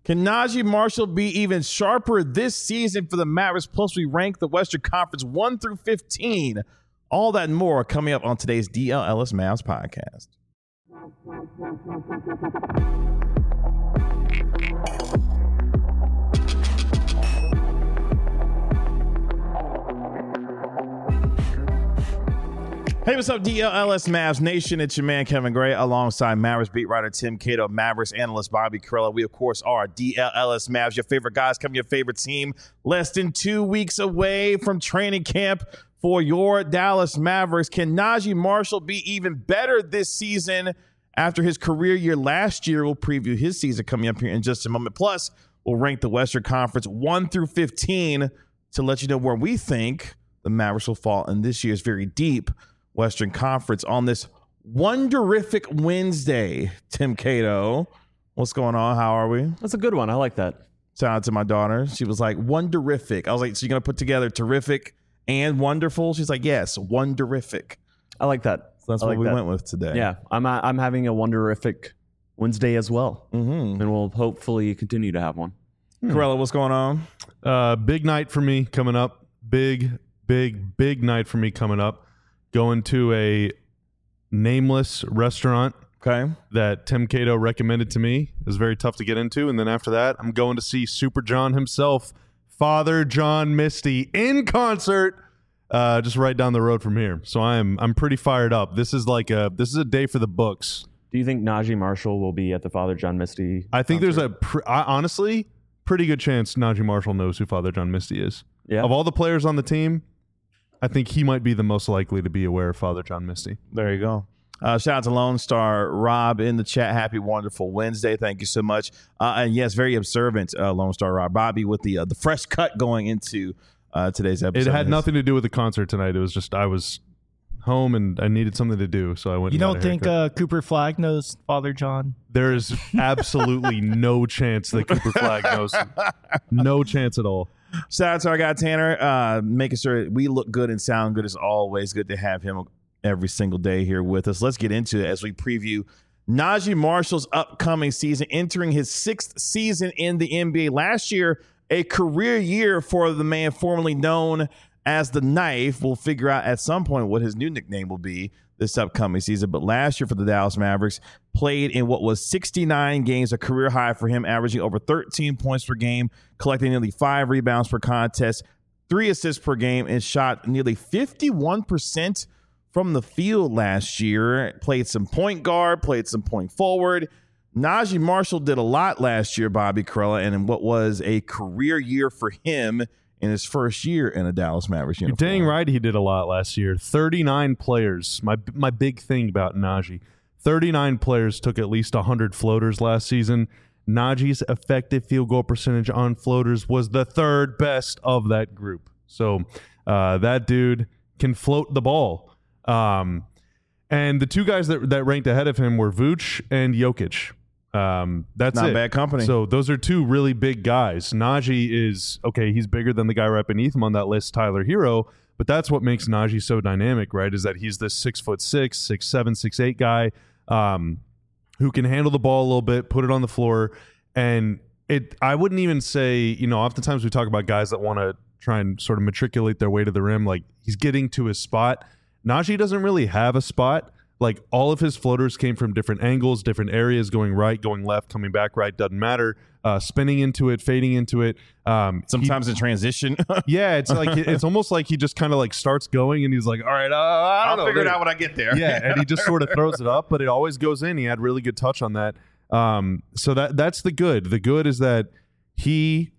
Can Najee Marshall be even sharper this season for the Mavericks? Plus, we rank the Western Conference 1 through 15. All that and more coming up on today's DLLS Mavs podcast. Hey, what's up, DLLS Mavs Nation? It's your man, Kevin Gray, alongside Mavericks beat writer Tim Cato, Mavericks analyst Bobby Karalla. We, of course, are DLLS Mavs, your favorite guys, coming your favorite team. Less than 2 weeks away from training camp for your Dallas Mavericks. Can Najee Marshall be even better this season after his career year last year? We'll preview his season coming up here in just a moment. Plus, we'll rank the Western Conference 1 through 15 to let you know where we think the Mavericks will fall in this year's very deep Western Conference on this wonderific Wednesday. Tim Cato, what's going on? How are we? That's a good one. I like that. Shout out to my daughter. She was like, wonderific. I was like, so you're going to put together terrific and wonderful? She's like, yes, wonderific. I like that. So that's what we went with today. Yeah, I'm having a wonderific Wednesday as well. Mm-hmm. And we'll hopefully continue to have one. Karalla, what's going on? Big night for me coming up. Big night for me coming up. Going to a nameless restaurant that Tim Cato recommended to me. It was very tough to get into. And then after that, I'm going to see Super John himself, Father John Misty, in concert just right down the road from here. So I'm pretty fired up. This is a day for the books. Do you think Najee Marshall will be at the Father John Misty I think concert? there's honestly pretty good chance Najee Marshall knows who Father John Misty is. Yeah. Of all the players on the team, I think he might be the most likely to be aware of Father John Misty. There you go. Shout out to Lone Star Rob in the chat. Happy, wonderful Wednesday. Thank you so much. And yes, very observant Lone Star Rob. Bobby with the fresh cut going into today's episode. It had nothing to do with the concert tonight. It was just I was home and I needed something to do, so I went. You don't think Cooper Flagg knows Father John? There is absolutely no chance that Cooper Flagg knows. No chance at all. Shout out to our guy Tanner, making sure we look good and sound good. As always, good to have him every single day here with us. Let's get into it as we preview Najee Marshall's upcoming season, entering his 6th season in the NBA. Last year, a career year for the man formerly known as the Knife. We'll figure out at some point what his new nickname will be this upcoming season. But last year for the Dallas Mavericks, played in what was 69 games, a career high for him, averaging over 13 points per game, collecting nearly 5 rebounds per contest, 3 assists per game, and shot nearly 51% from the field last year. Played some point guard, played some point forward. Najee Marshall did a lot last year, Bobby Karalla, and in what was a career year for him in his first year in a Dallas Mavericks uniform. You're dang right he did a lot last year. 39 players. My big thing about Najee. 39 players took at least 100 floaters last season. Najee's effective field goal percentage on floaters was the 3rd best of that group. So that dude can float the ball. And the 2 guys that ranked ahead of him were Vooch and Jokic. That's not it. bad company. So those are 2 really big guys. Najee is he's bigger than the guy right beneath him on that list, Tyler Hero. But that's what makes Najee so dynamic, right? Is that he's this 6'6", 6'7", 6'8" guy who can handle the ball a little bit, put it on the floor, and I wouldn't even say, oftentimes we talk about guys that want to try and sort of matriculate their way to the rim, like he's getting to his spot. Najee doesn't really have a spot. Like all of his floaters came from different angles, different areas, going right, going left, coming back right, doesn't matter. Spinning into it, fading into it. Sometimes in transition. Yeah, it's like it's almost like he just kind of like starts going and he's like, all right, I'll figure it out when I get there. Yeah, and he just sort of throws it up, but it always goes in. He had really good touch on that. So that's the good. The good is that he,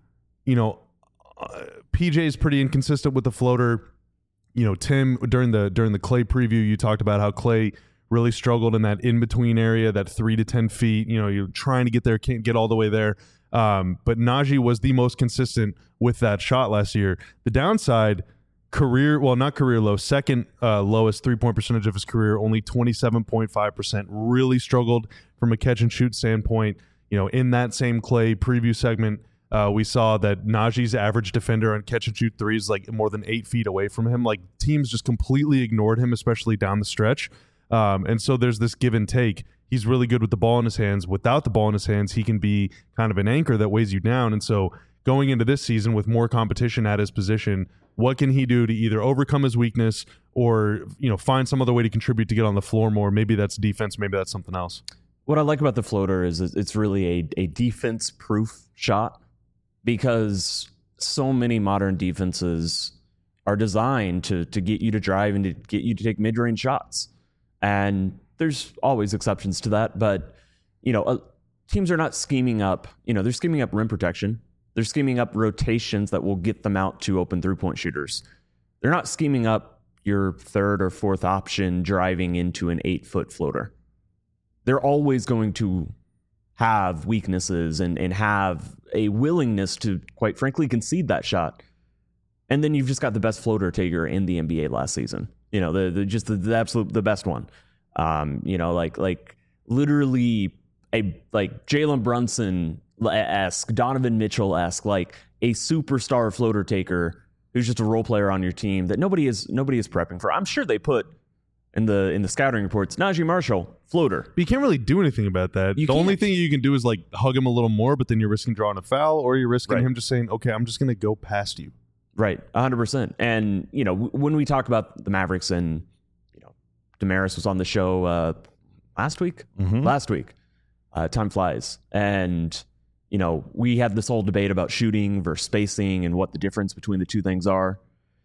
PJ is pretty inconsistent with the floater. Tim, during the Clay preview, you talked about how Clay really struggled in that in-between area, that 3 to 10 feet. You're trying to get there, can't get all the way there. But Najee was the most consistent with that shot last year. The downside, not career low, second lowest three-point percentage of his career, only 27.5%. Really struggled from a catch-and-shoot standpoint. In that same Clay preview segment, we saw that Najee's average defender on catch-and-shoot threes like more than 8 feet away from him. Like teams just completely ignored him, especially down the stretch. And so there's this give and take. he's really good with the ball in his hands. Without the ball in his hands, he can be kind of an anchor that weighs you down. And so going into this season with more competition at his position, what can he do to either overcome his weakness or, find some other way to contribute to get on the floor more? Maybe that's defense. Maybe that's something else. What I like about the floater is it's really a defense-proof shot, because so many modern defenses are designed to get you to drive and to get you to take mid-range shots. And there's always exceptions to that, but teams are not scheming up. They're scheming up rim protection. They're scheming up rotations that will get them out to open three-point shooters. They're not scheming up your third or fourth option driving into an 8-foot floater. They're always going to have weaknesses and have a willingness to, quite frankly, concede that shot. And then you've just got the best floater taker in the NBA last season. The best one. Like literally like Jalen Brunson-esque, Donovan Mitchell-esque, like a superstar floater taker who's just a role player on your team that nobody is prepping for. I'm sure they put in the scouting reports, Najee Marshall, floater. But you can't really do anything about that. The only thing you can do is like hug him a little more, but then you're risking drawing a foul, or you're risking him just saying, okay, I'm just going to go past you. Right, 100%. And, when we talk about the Mavericks, and, Damaris was on the show last week. Time flies. And, we had this whole debate about shooting versus spacing and what the difference between the two things are.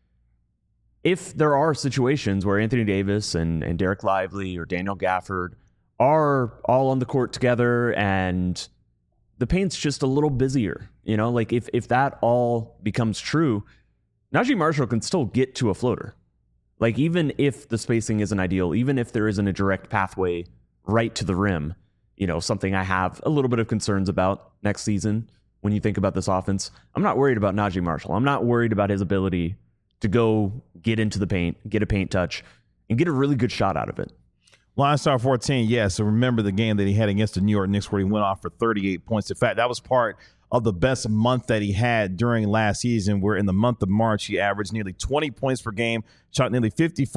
If there are situations where Anthony Davis and Derek Lively or Daniel Gafford are all on the court together and the paint's just a little busier, like if that all becomes true, Najee Marshall can still get to a floater. Like, even if the spacing isn't ideal, even if there isn't a direct pathway right to the rim, something I have a little bit of concerns about next season when you think about this offense, I'm not worried about Najee Marshall. I'm not worried about his ability to go get into the paint, get a paint touch, and get a really good shot out of it. Line Star 14, yeah. So remember the game that he had against the New York Knicks where he went off for 38 points. In fact, that was part of the best month that he had during last season, where in the month of March, he averaged nearly 20 points per game, shot nearly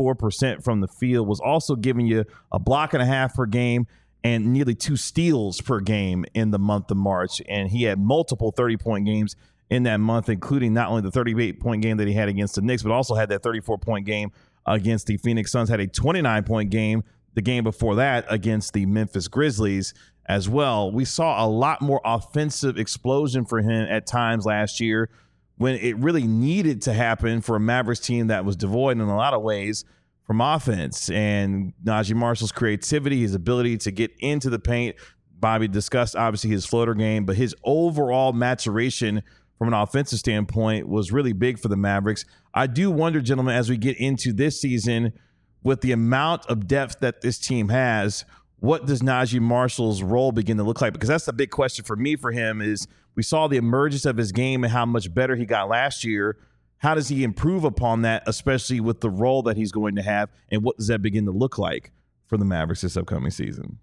54% from the field, was also giving you a block and a half per game and nearly 2 steals per game in the month of March. And he had multiple 30-point games in that month, including not only the 38-point game that he had against the Knicks, but also had that 34-point game against the Phoenix Suns, had a 29-point game the game before that against the Memphis Grizzlies as well. We saw a lot more offensive explosion for him at times last year when it really needed to happen for a Mavericks team that was devoid in a lot of ways from offense. And Najee Marshall's creativity, his ability to get into the paint, Bobby discussed obviously his floater game, but his overall maturation from an offensive standpoint was really big for the Mavericks. I do wonder, gentlemen, as we get into this season, with the amount of depth that this team has, what does Najee Marshall's role begin to look like? Because that's the big question for me for him is we saw the emergence of his game and how much better he got last year. How does he improve upon that, especially with the role that he's going to have? And what does that begin to look like for the Mavericks this upcoming season?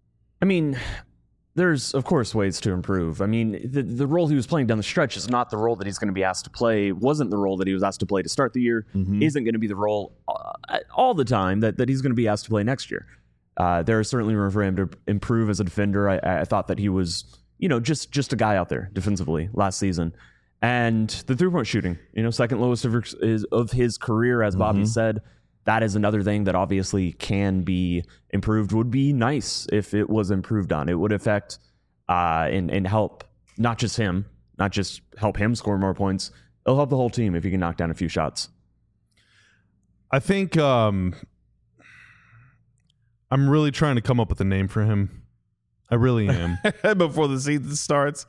I mean, there's, of course, ways to improve. I mean, the role he was playing down the stretch is not the role that he's going to be asked to play, wasn't the role that he was asked to play to start the year, isn't going to be the role all the time that he's going to be asked to play next year. There is certainly room for him to improve as a defender. I thought that he was, just a guy out there defensively last season. And the three-point shooting, second lowest of his career, as Bobby said. That is another thing that obviously can be improved. Would be nice if it was improved on. It would affect and help not just him, not just help him score more points. It'll help the whole team if he can knock down a few shots. I think I'm really trying to come up with a name for him. I really am. Before the season starts.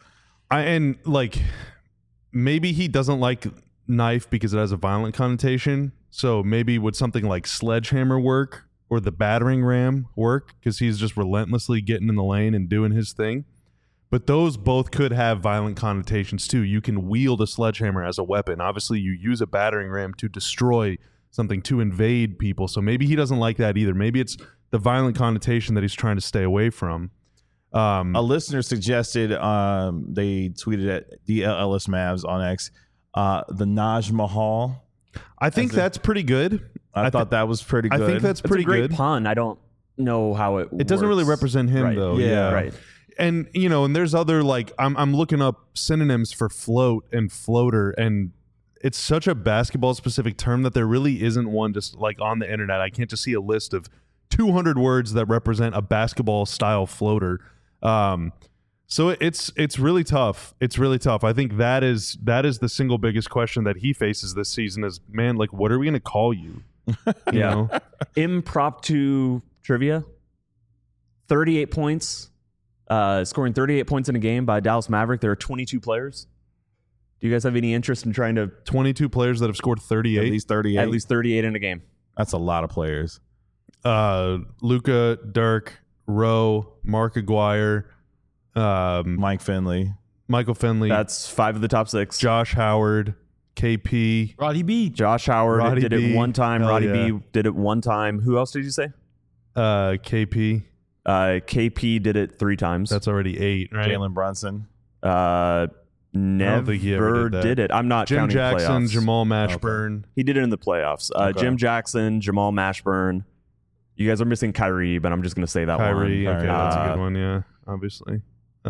Maybe he doesn't like knife because it has a violent connotation. So maybe would something like sledgehammer work or the battering ram work because he's just relentlessly getting in the lane and doing his thing. But those both could have violent connotations too. You can wield a sledgehammer as a weapon. Obviously, you use a battering ram to destroy something, to invade people. So maybe he doesn't like that either. Maybe it's the violent connotation that he's trying to stay away from. A listener suggested, they tweeted at DLS Mavs on X, the Naj Mahal. I think that's pretty good. I thought that was pretty good. I think that's pretty great good. Pun. I don't know how it doesn't really works. represent him, Right. though. Yeah. Right. And and there's other I'm looking up synonyms for float and floater, and it's such a basketball specific term that there really isn't one just like on the internet. I can't just see a list of 200 words that represent a basketball style floater. So it's really tough. It's really tough. I think that is the single biggest question that he faces this season is, man, like, what are we going to call you? You know? Impromptu trivia. 38 points. Scoring 38 points in a game by Dallas Maverick. There are 22 players. Do you guys have any interest in trying to 22 players that have scored 38. At least 38. at least 38 in a game? That's a lot of players. Luka, Dirk, Rowe, Mark Aguirre, Mike Finley. Michael Finley, That's 5 of the top 6. Josh Howard, KP, Roddy B. Josh Howard Roddy did B. it one time. Hell Roddy yeah. B did it one time. Who else did you say? KP. KP did it 3 times. That's already 8, right? Jalen Brunson. Never think he ever did that. I'm not Jim counting Jackson, playoffs. Jamal Mashburn. He did it in the playoffs. Okay. Jim Jackson, Jamal Mashburn. You guys are missing Kyrie, but I'm just going to say that Kyrie. one. Okay, that's a good one. Yeah, obviously. Here,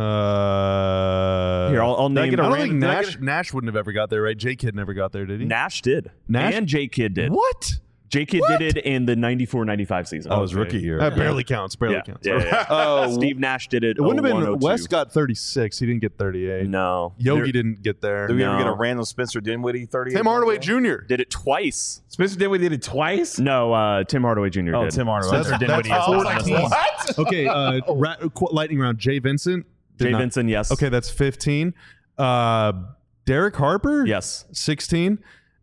I'll Did I name. get a I don't random- think did I Nash get Nash wouldn't have ever got there, right? J Kidd never got there, did he? Nash did. Nash- And J Kidd did. What? J Kidd did it in the 94-95 season. Oh, his rookie year. That barely counts. Barely counts. Yeah. Oh, Steve Nash did it. it wouldn't have been. 01-02. West got 36. He didn't get 38. No. Yogi didn't get there. Did we ever No. get a random Spencer Dinwiddie 38? Tim Hardaway Jr. Did it twice. Spencer Dinwiddie did it twice? No, Tim Hardaway Jr. Oh, did. Tim Hardaway. Spencer That's- Dinwiddie that's is also on this 14. list. Okay, lightning round. Jay Vincent. Did Jay not- Vincent, yes. Okay, that's 15. Derek Harper. Yes. 16.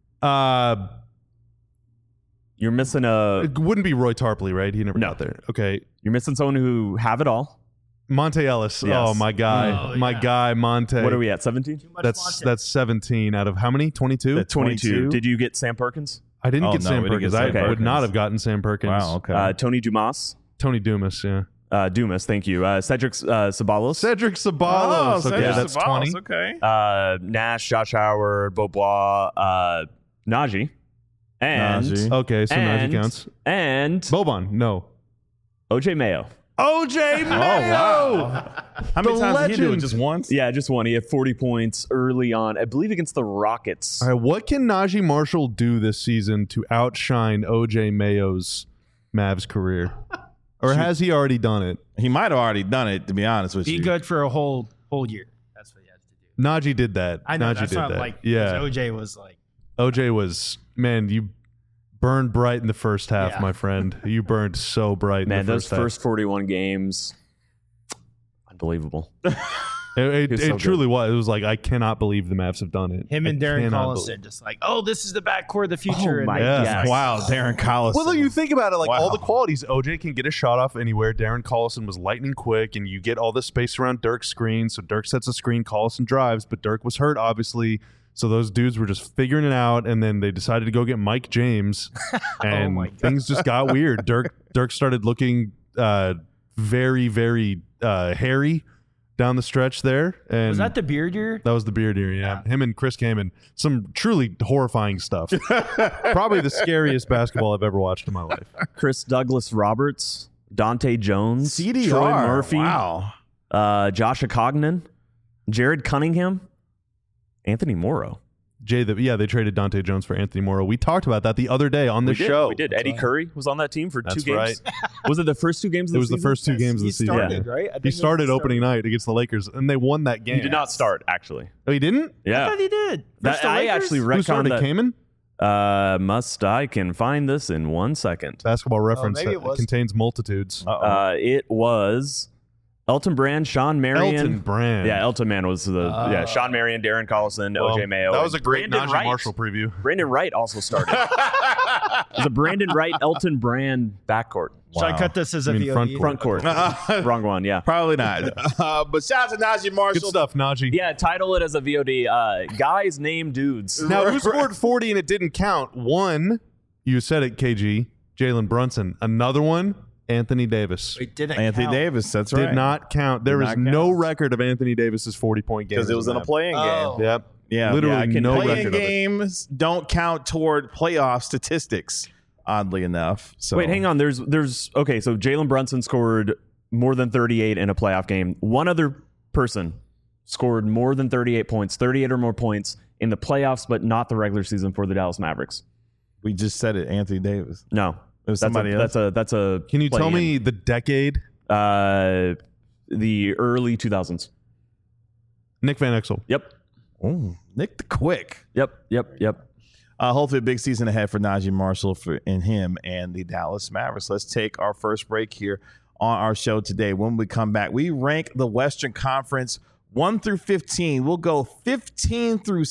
You're missing It wouldn't be Roy Tarpley, right? He never No. got there. Okay. You're missing someone who have it all. Monte Ellis. Yes. Oh, my guy. Oh, my yeah. guy, Monte. What are we at? 17? That's 17 out of how many? 22? 22. Did you get Sam Perkins? I didn't Oh, get no, Sam we didn't get Perkins. Sam I would Perkins. not have gotten Sam Perkins. Wow, okay. Tony Dumas. Tony Dumas, yeah. Dumas, thank you. Cedric Sabalos. Cedric Sabalos. Cedric okay, that's Sabalos, 20. Okay. Nash, Josh Howard, Beaubois, Najee. And Najee. Okay, so Najee and- counts. and Boban, no. OJ Mayo. OJ Mayo! How many The times did he do it? legend. Just once? Yeah, just one. He had 40 points early on, I believe against the Rockets. All right, what can Najee Marshall do this season to outshine OJ Mayo's Mavs career? Or has he already done it? He might have already done it, to be honest with Be you. good for a whole year. That's what he has to do. Najee did that. I know Najee that's did not that. like yeah. OJ was like OJ was, man, you burned bright in the first half, Yeah. my friend. You burned so bright Man, in the those first half. first 41 games, unbelievable. It was so truly was. It was like, I cannot believe the Mavs have done it. him and I Darren cannot Collison just like, oh, this is the backcourt of the future. Oh, my and Yeah. Yes. Wow, Darren Collison. Well, you think about it, like all Wow. the qualities. OJ can get a shot off anywhere. Darren Collison was lightning quick, and you get all this space around Dirk's screen. So Dirk sets a screen, Collison drives, but Dirk was hurt, obviously. So those dudes were just figuring it out, and then they decided to go get Mike James, and my God. things just got weird. Dirk started looking very, very hairy down the stretch there. And was that the beard year? that was the beard era, yeah. Him and Chris Kaman, some truly horrifying stuff. Probably the scariest basketball I've ever watched in my life. Chris Douglas Roberts, Dante Jones, CDR. Troy Murphy, Wow. Josh Cognan, Jared Cunningham, Anthony Morrow. They traded Dante Jones for Anthony Morrow. We talked about that the other day on the show. We did. Eddie Curry was on that team for That's 2 games. right. Was it the first 2 games of It the was the season? first 2 games of the He season. started, right? I think He it was started the opening night against the Lakers, and they won that game. He did not start, actually. Oh, he didn't? I Yeah. thought he did. That- Versus the I Lakers? actually Who retconned started? that. Kaman? I can find this in 1 second. Basketball Reference maybe that it was. contains multitudes. It was Elton Brand, Sean Marion. Elton Brand. Yeah, Elton Man was Sean Marion, Darren Collison, Well, OJ Mayo. That was a and great Brandon Najee Wright. Marshall preview. Brandon Wright also started. It was a Brandon Wright, Elton Brand backcourt. Should I cut this as a I mean, VOD? front court. Front court. Wrong one, yeah. Probably not. But shout out to Najee Good Marshall. stuff, Najee. Yeah, title it as a VOD. Guys named dudes. Now, who scored 40 and it didn't count? One, you said it, KG, Jalen Brunson. Another one, Anthony Davis. It didn't Anthony count. Davis. That's right. Did not count. There Did is not no count. record of Anthony Davis's 40-point game. Because it was in a playing Oh. game. Yep. Yeah, Literally yeah, I can no playing record of it. games don't count toward playoff statistics. oddly enough. So Wait, hang on. There's okay. So Jalen Brunson scored more than 38 in a playoff game. One other person scored more than 38 points, 38 or more points in the playoffs, but not the regular season for the Dallas Mavericks. We just said it, Anthony Davis. No, It was somebody else. That's a. Can you tell play-in. me the decade? The early 2000s. Nick Van Exel. Yep. Oh, Nick the Quick. Yep. Hopefully a big season ahead for Najee Marshall and him and the Dallas Mavericks. Let's take our first break here on our show today. When we come back, we rank the Western Conference 1 through 15. We'll go 15 through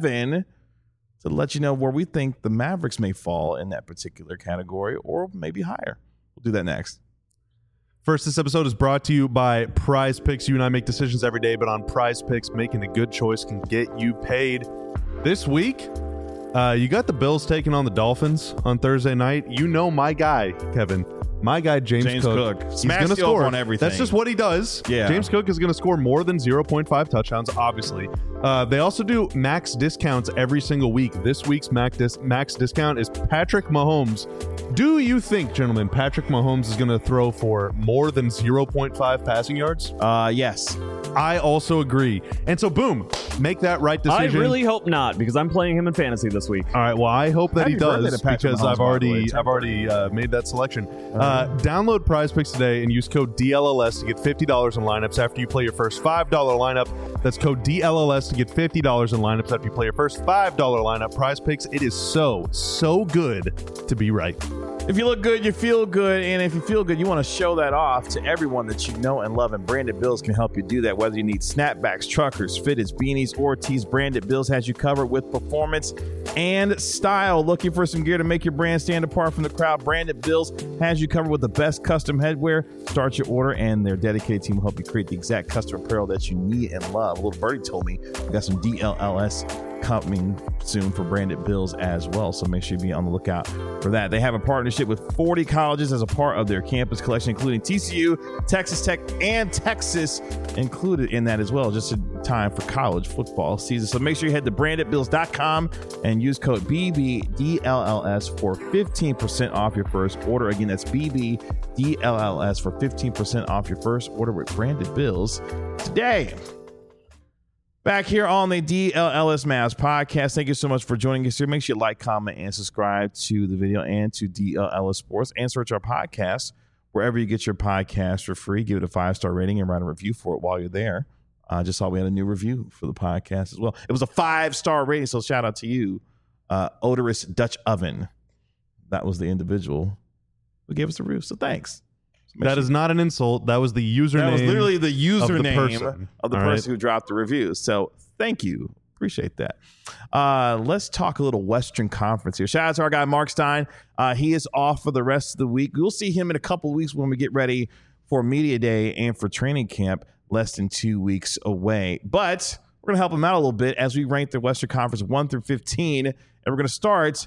7 to let you know where we think the Mavericks may fall in that particular category or maybe higher. We'll do that next. First, this episode is brought to you by Prize Picks. You and I make decisions every day, but on Prize Picks, making a good choice can get you paid. This week, you got the Bills taking on the Dolphins on Thursday night. You know my guy, Kevin. My guy, James Cook. He's Smash going to you up score. on everything. That's just what he does. Yeah. James Cook is going to score more than 0.5 touchdowns, obviously. They also do max discounts every single week. This week's max discount is Patrick Mahomes. Do you think, gentlemen, Patrick Mahomes is going to throw for more than 0.5 passing yards? Yes. I also agree. And so, boom, make that right I decision. really hope not, because I'm playing him in fantasy this week. All right. Well, I hope that he Happy birthday does to Patrick because Mahomes, I've by the way. already made that selection. Download Prize Picks today and use code DLLS to get $50 in lineups after you play your first $5 lineup. That's code DLLS to get $50 in lineups after you play your first $5 lineup. Prize Picks. It is so good to be right. If you look good, you feel good. And if you feel good, you want to show that off to everyone that you know and love. And Branded Bills can help you do that. Whether you need snapbacks, truckers, fitteds, beanies, or tees, Branded Bills has you covered with performance and style. Looking for some gear to make your brand stand apart from the crowd? Branded Bills has you covered with the best custom headwear. Start your order, and their dedicated team will help you create the exact custom apparel that you need and love. Little Birdie told me we got some DLLS coming soon for Branded Bills as well, so make sure you be on the lookout for that. They have a partnership with 40 colleges as a part of their campus collection, including TCU, Texas Tech, and Texas included in that as well, just in time for college football season. So make sure you head to brandedbills.com and use code BBDLLS for 15% off your first order. Again, that's BBDLLS for 15% off your first order with Branded Bills today. Back here on the DLLS Mavs podcast. Thank you so much for joining us here. Make sure you like, comment, and subscribe to the video and to DLLS Sports, and search our podcast wherever you get your podcast for free. Give it a 5-star rating and write a review for it while you're there. Just saw we had a new review for the podcast as well. It was a 5-star rating, so shout out to you, Odorous Dutch Oven. That was the individual who gave us a review, so thanks. That is not an insult. That was the username. That was literally the username of the All person who dropped the review. So thank you. Appreciate that. Let's talk a little Western Conference here. Shout out to our guy, Mark Stein. He is off for the rest of the week. We'll see him in a couple of weeks when we get ready for Media Day and for training camp, less than 2 weeks away. But we're going to help him out a little bit as we rank the Western Conference 1 through 15. And we're going to start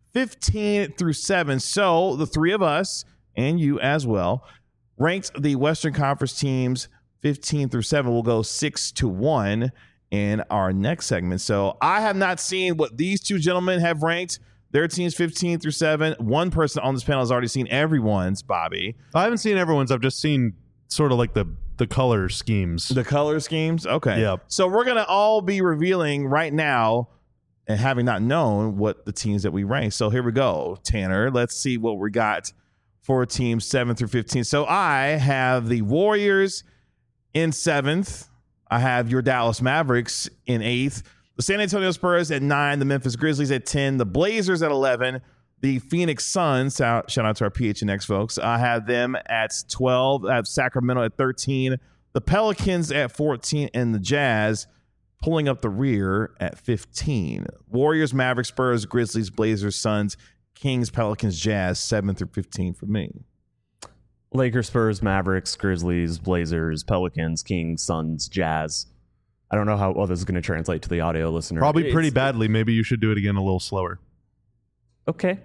15 through 7. So the three of us and you as well ranked the Western Conference teams 15 through 7. We'll go 6 to 1 in our next segment. So I have not seen what these two gentlemen have ranked their teams 15 through 7. One person on this panel has already seen everyone's, Bobby. I haven't seen everyone's. I've just seen sort of like the color schemes. The color schemes? Okay. Yeah. So we're going to all be revealing right now, and having not known what the teams that we rank. So here we go, Tanner. Let's see what we got for teams 7 through 15. So I have the Warriors in 7th. I have your Dallas Mavericks in 8th. The San Antonio Spurs at 9. The Memphis Grizzlies at 10. The Blazers at 11. The Phoenix Suns, shout out to our PHNX folks, I have them at 12. I have Sacramento at 13. The Pelicans at 14. And the Jazz pulling up the rear at 15. Warriors, Mavericks, Spurs, Grizzlies, Blazers, Suns, Kings, Pelicans, Jazz, 7 through 15 for me. Lakers, Spurs, Mavericks, Grizzlies, Blazers, Pelicans, Kings, Suns, Jazz. I don't know how well this is going to translate to the audio listener. Probably pretty badly. Maybe you should do it again a little slower. Okay.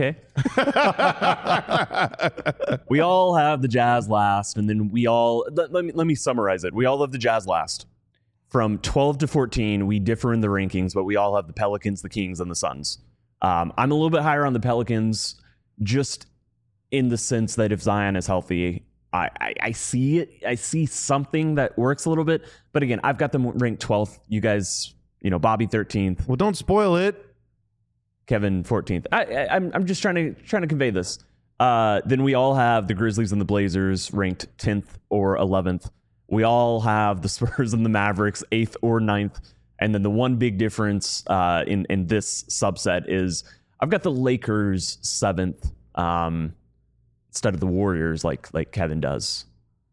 We all have the Jazz last, and then we all let me summarize it. We all have the Jazz last. From 12 to 14, we differ in the rankings, but we all have the Pelicans, the Kings, and the Suns. I'm a little bit higher on the Pelicans. just in the sense that if Zion is healthy, I see it. I see something that works a little bit. But again, I've got them ranked 12th. You guys, Bobby 13th, Well, don't spoil it. Kevin 14th. I'm just trying to convey this. Then we all have the Grizzlies and the Blazers ranked 10th or 11th. We all have the Spurs and the Mavericks 8th or 9th. And then the one big difference in this subset is I've got the Lakers 7th instead of the Warriors like Kevin does.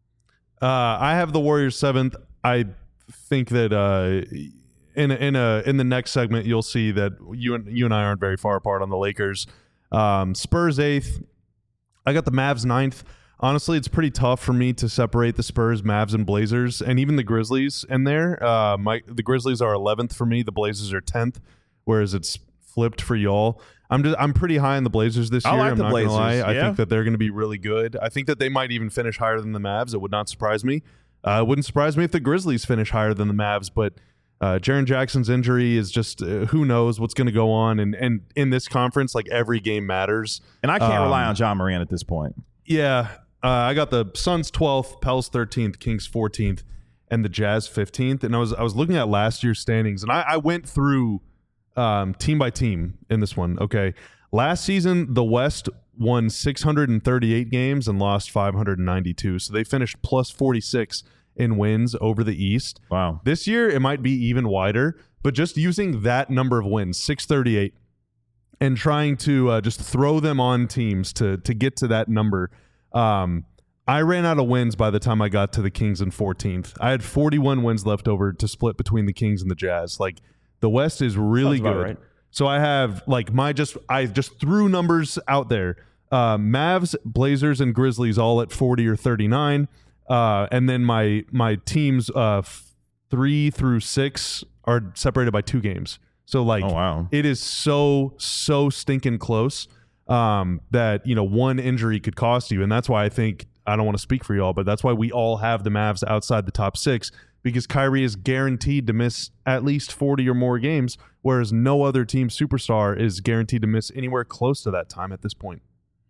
I have the Warriors 7th. I think that in the next segment you'll see that you and I aren't very far apart on the Lakers. Spurs 8th. I got the Mavs 9th. Honestly, it's pretty tough for me to separate the Spurs, Mavs, and Blazers, and even the Grizzlies in there. The Grizzlies are 11th for me. The Blazers are 10th, whereas it's flipped for y'all. I'm pretty high on the Blazers this year. I like the not Blazers. Gonna lie. Yeah. I think that they're going to be really good. I think that they might even finish higher than the Mavs. It would not surprise me. It wouldn't surprise me if the Grizzlies finish higher than the Mavs, but Jaren Jackson's injury is just who knows what's going to go on. And in this conference, like every game matters. And I can't rely on John Morant at this point. Yeah. I got the Suns 12th, Pels 13th, Kings 14th, and the Jazz 15th. And I was looking at last year's standings, and I went through team by team in this one. Okay. Last season, the West won 638 games and lost 592. So they finished plus 46 in wins over the East. Wow. This year, it might be even wider, but just using that number of wins, 638, and trying to just throw them on teams to get to that number. I ran out of wins by the time I got to the Kings in 14th. I had 41 wins left over to split between the Kings and the Jazz. Like the West is really Sounds about good. right. So I have like I just threw numbers out there. Mavs, Blazers, and Grizzlies all at 40 or 39. And then my teams 3 through 6 are separated by 2 games. So like Oh, wow. it is so stinking close. That one injury could cost you, and that's why I don't want to speak for y'all, but that's why we all have the Mavs outside the top 6, because Kyrie is guaranteed to miss at least 40 or more games, whereas no other team superstar is guaranteed to miss anywhere close to that time at this point.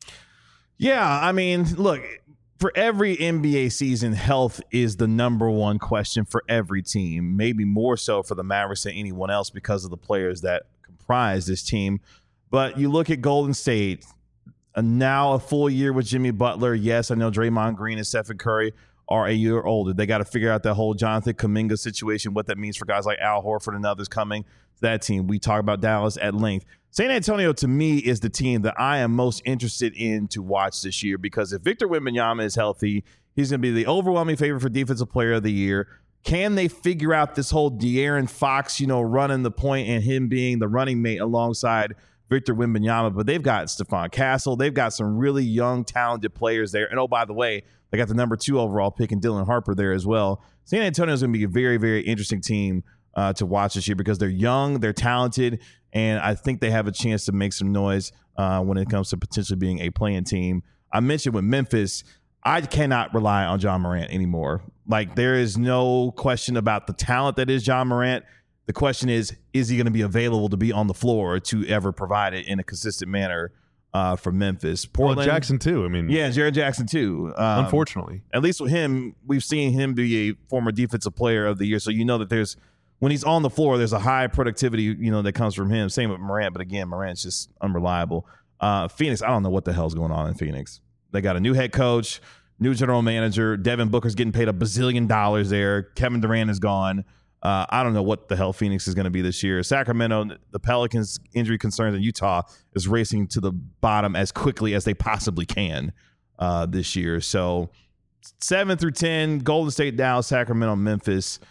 Yeah, I mean, look, for every NBA season, health is the number one question for every team, maybe more so for the Mavericks than anyone else because of the players that comprise this team. But you look at Golden State, now a full year with Jimmy Butler. Yes, I know Draymond Green and Stephen Curry are a year older. They got to figure out that whole Jonathan Kuminga situation, what that means for guys like Al Horford and others coming to that team. We talk about Dallas at length. San Antonio, to me, is the team that I am most interested in to watch this year, because if Victor Wembanyama is healthy, he's going to be the overwhelming favorite for Defensive Player of the Year. Can they figure out this whole De'Aaron Fox, running the point and him being the running mate alongside Victor Wembanyama? But they've got Stephon Castle. They've got some really young, talented players there. And oh, by the way, they got the number 2 overall pick and Dylan Harper there as well. San Antonio is going to be a very, very interesting team to watch this year, because they're young, they're talented, and I think they have a chance to make some noise when it comes to potentially being a playing team. I mentioned with Memphis, I cannot rely on John Morant anymore. Like, there is no question about the talent that is John Morant. The question is he going to be available to be on the floor to ever provide it in a consistent manner for Memphis? Portland, Well, Jackson too. I mean, yeah, Jared Jackson too. Unfortunately, At least with him, we've seen him be a former Defensive Player of the Year. So that when he's on the floor, there's a high productivity, that comes from him. Same with Morant, but again, Morant's just unreliable. Phoenix, I don't know what the hell's going on in Phoenix. They got a new head coach, new general manager. Devin Booker's getting paid $1 bazillion there. Kevin Durant is gone. I don't know what the hell Phoenix is going to be this year. Sacramento, the Pelicans' injury concerns in Utah is racing to the bottom as quickly as they possibly can this year. So 7 through 10, Golden State, Dallas, Sacramento, Memphis.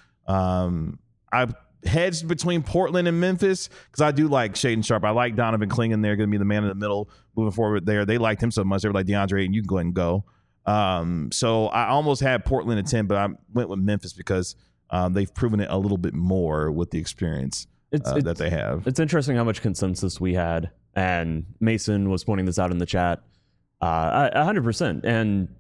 I've hedged between Portland and Memphis because I do like Shaedon Sharpe. I like Donovan Clingan. They're going to be the man in the middle moving forward there. They liked him so much. They were like, DeAndre, and you can go ahead and go. So I almost had Portland at 10, but I went with Memphis because they've proven it a little bit more with the experience that they have. It's interesting how much consensus we had, and Mason was pointing this out in the chat. 100%. And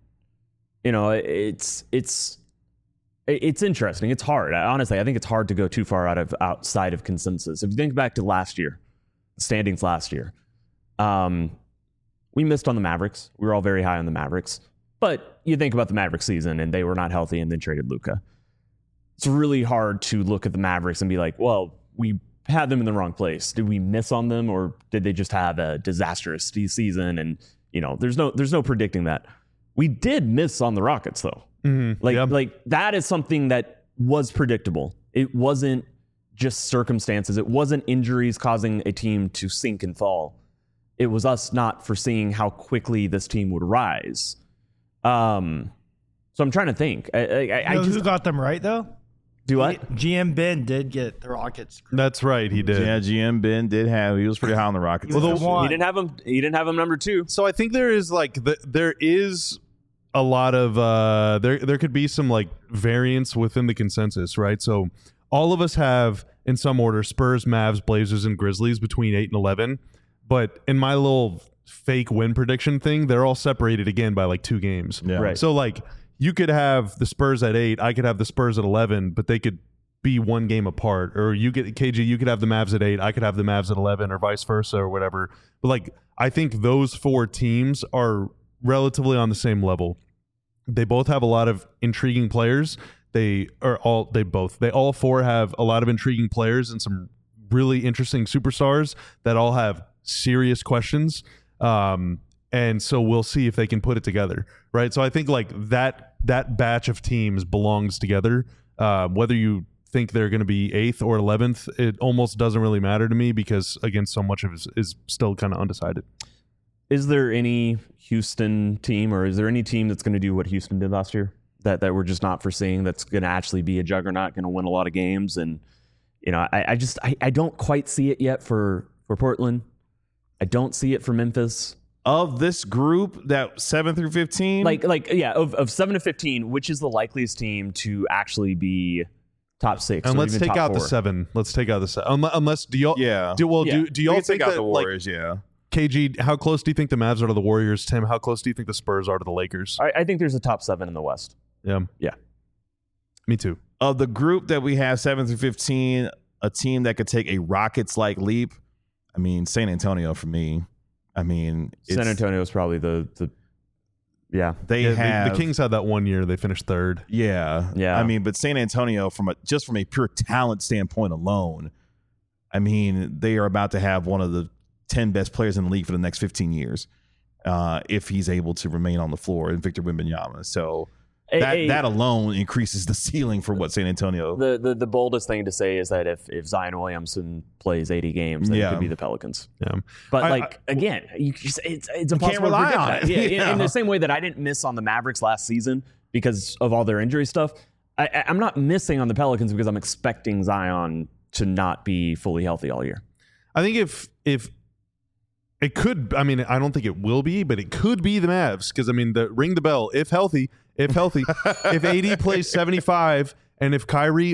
it's interesting. It's hard. Honestly, I think it's hard to go too far outside of consensus. If you think back to last year, standings last year, we we missed on the Mavericks. We were all very high on the Mavericks. But you think about the Mavericks season, and they were not healthy and then traded Luka. It's really hard to look at the Mavericks and be like, well, we had them in the wrong place. Did we miss on them, or did they just have a disastrous season? And, there's no predicting that. We did miss on the Rockets, though. Like that is something that was predictable. It wasn't just circumstances. It wasn't injuries causing a team to sink and fall. It was us not foreseeing how quickly this team would rise. So I'm trying to think. Who got them right though? Do what? GM Ben did get the Rockets. That's right, he did. Yeah, GM Ben did have. He was pretty high on the Rockets. He didn't have him. He didn't have him number 2. So I think there is there is a lot of there could be some like variance within the consensus, right? So all of us have in some order Spurs, Mavs, Blazers, and Grizzlies between 8 and 11. But in my little fake win prediction thing, they're all separated again by like 2 games. Yeah. Right. So like you could have the Spurs at 8, I could have the Spurs at 11, but they could be 1 game apart. Or you could have the Mavs at 8, I could have the Mavs at 11, or vice versa, or whatever. But like I think those 4 teams are relatively on the same level. They both have a lot of intriguing players. They all 4 have a lot of intriguing players and some really interesting superstars that all have serious questions. And so we'll see if they can put it together, right? So I think like that batch of teams belongs together. Whether you think they're going to be 8th or 11th, it almost doesn't really matter to me because, again, so much of it is still kind of undecided. Is there any Houston team, or is there any team that's going to do what Houston did last year that we're just not foreseeing, that's going to actually be a juggernaut, going to win a lot of games? And, I don't quite see it yet for Portland. I don't see it for Memphis. Of this group, that 7 through 15? Of 7 to 15, which is the likeliest team to actually be top 6? And or let's even take top out 4? the 7. Let's take out the 7. Unless, do y'all... Yeah. Do y'all We can think take out that, the Warriors, KG, how close do you think the Mavs are to the Warriors? Tim, how close do you think the Spurs are to the Lakers? I think there's a top 7 in the West. Yeah. Me too. Of the group that we have 7 through 15, a team that could take a Rockets-like leap, I mean, San Antonio for me. I mean, San Antonio is probably the The Kings had that 1 year. They finished 3rd. Yeah. I mean, but San Antonio, from a pure talent standpoint alone, I mean, they are about to have one of the 10 best players in the league for the next 15 years if he's able to remain on the floor, and Victor Wembanyama. So that alone increases the ceiling for what San Antonio. The boldest thing to say is that if Zion Williamson plays 80 games, then it could be the Pelicans. Yeah. But again, it's impossible can't rely to predict on that. it. Yeah. In the same way that I didn't miss on the Mavericks last season because of all their injury stuff, I'm not missing on the Pelicans because I'm expecting Zion to not be fully healthy all year. I think if it could, I mean, I don't think it will be, but it could be the Mavs because, I mean, ring the bell. If healthy, if AD plays 75 and if Kyrie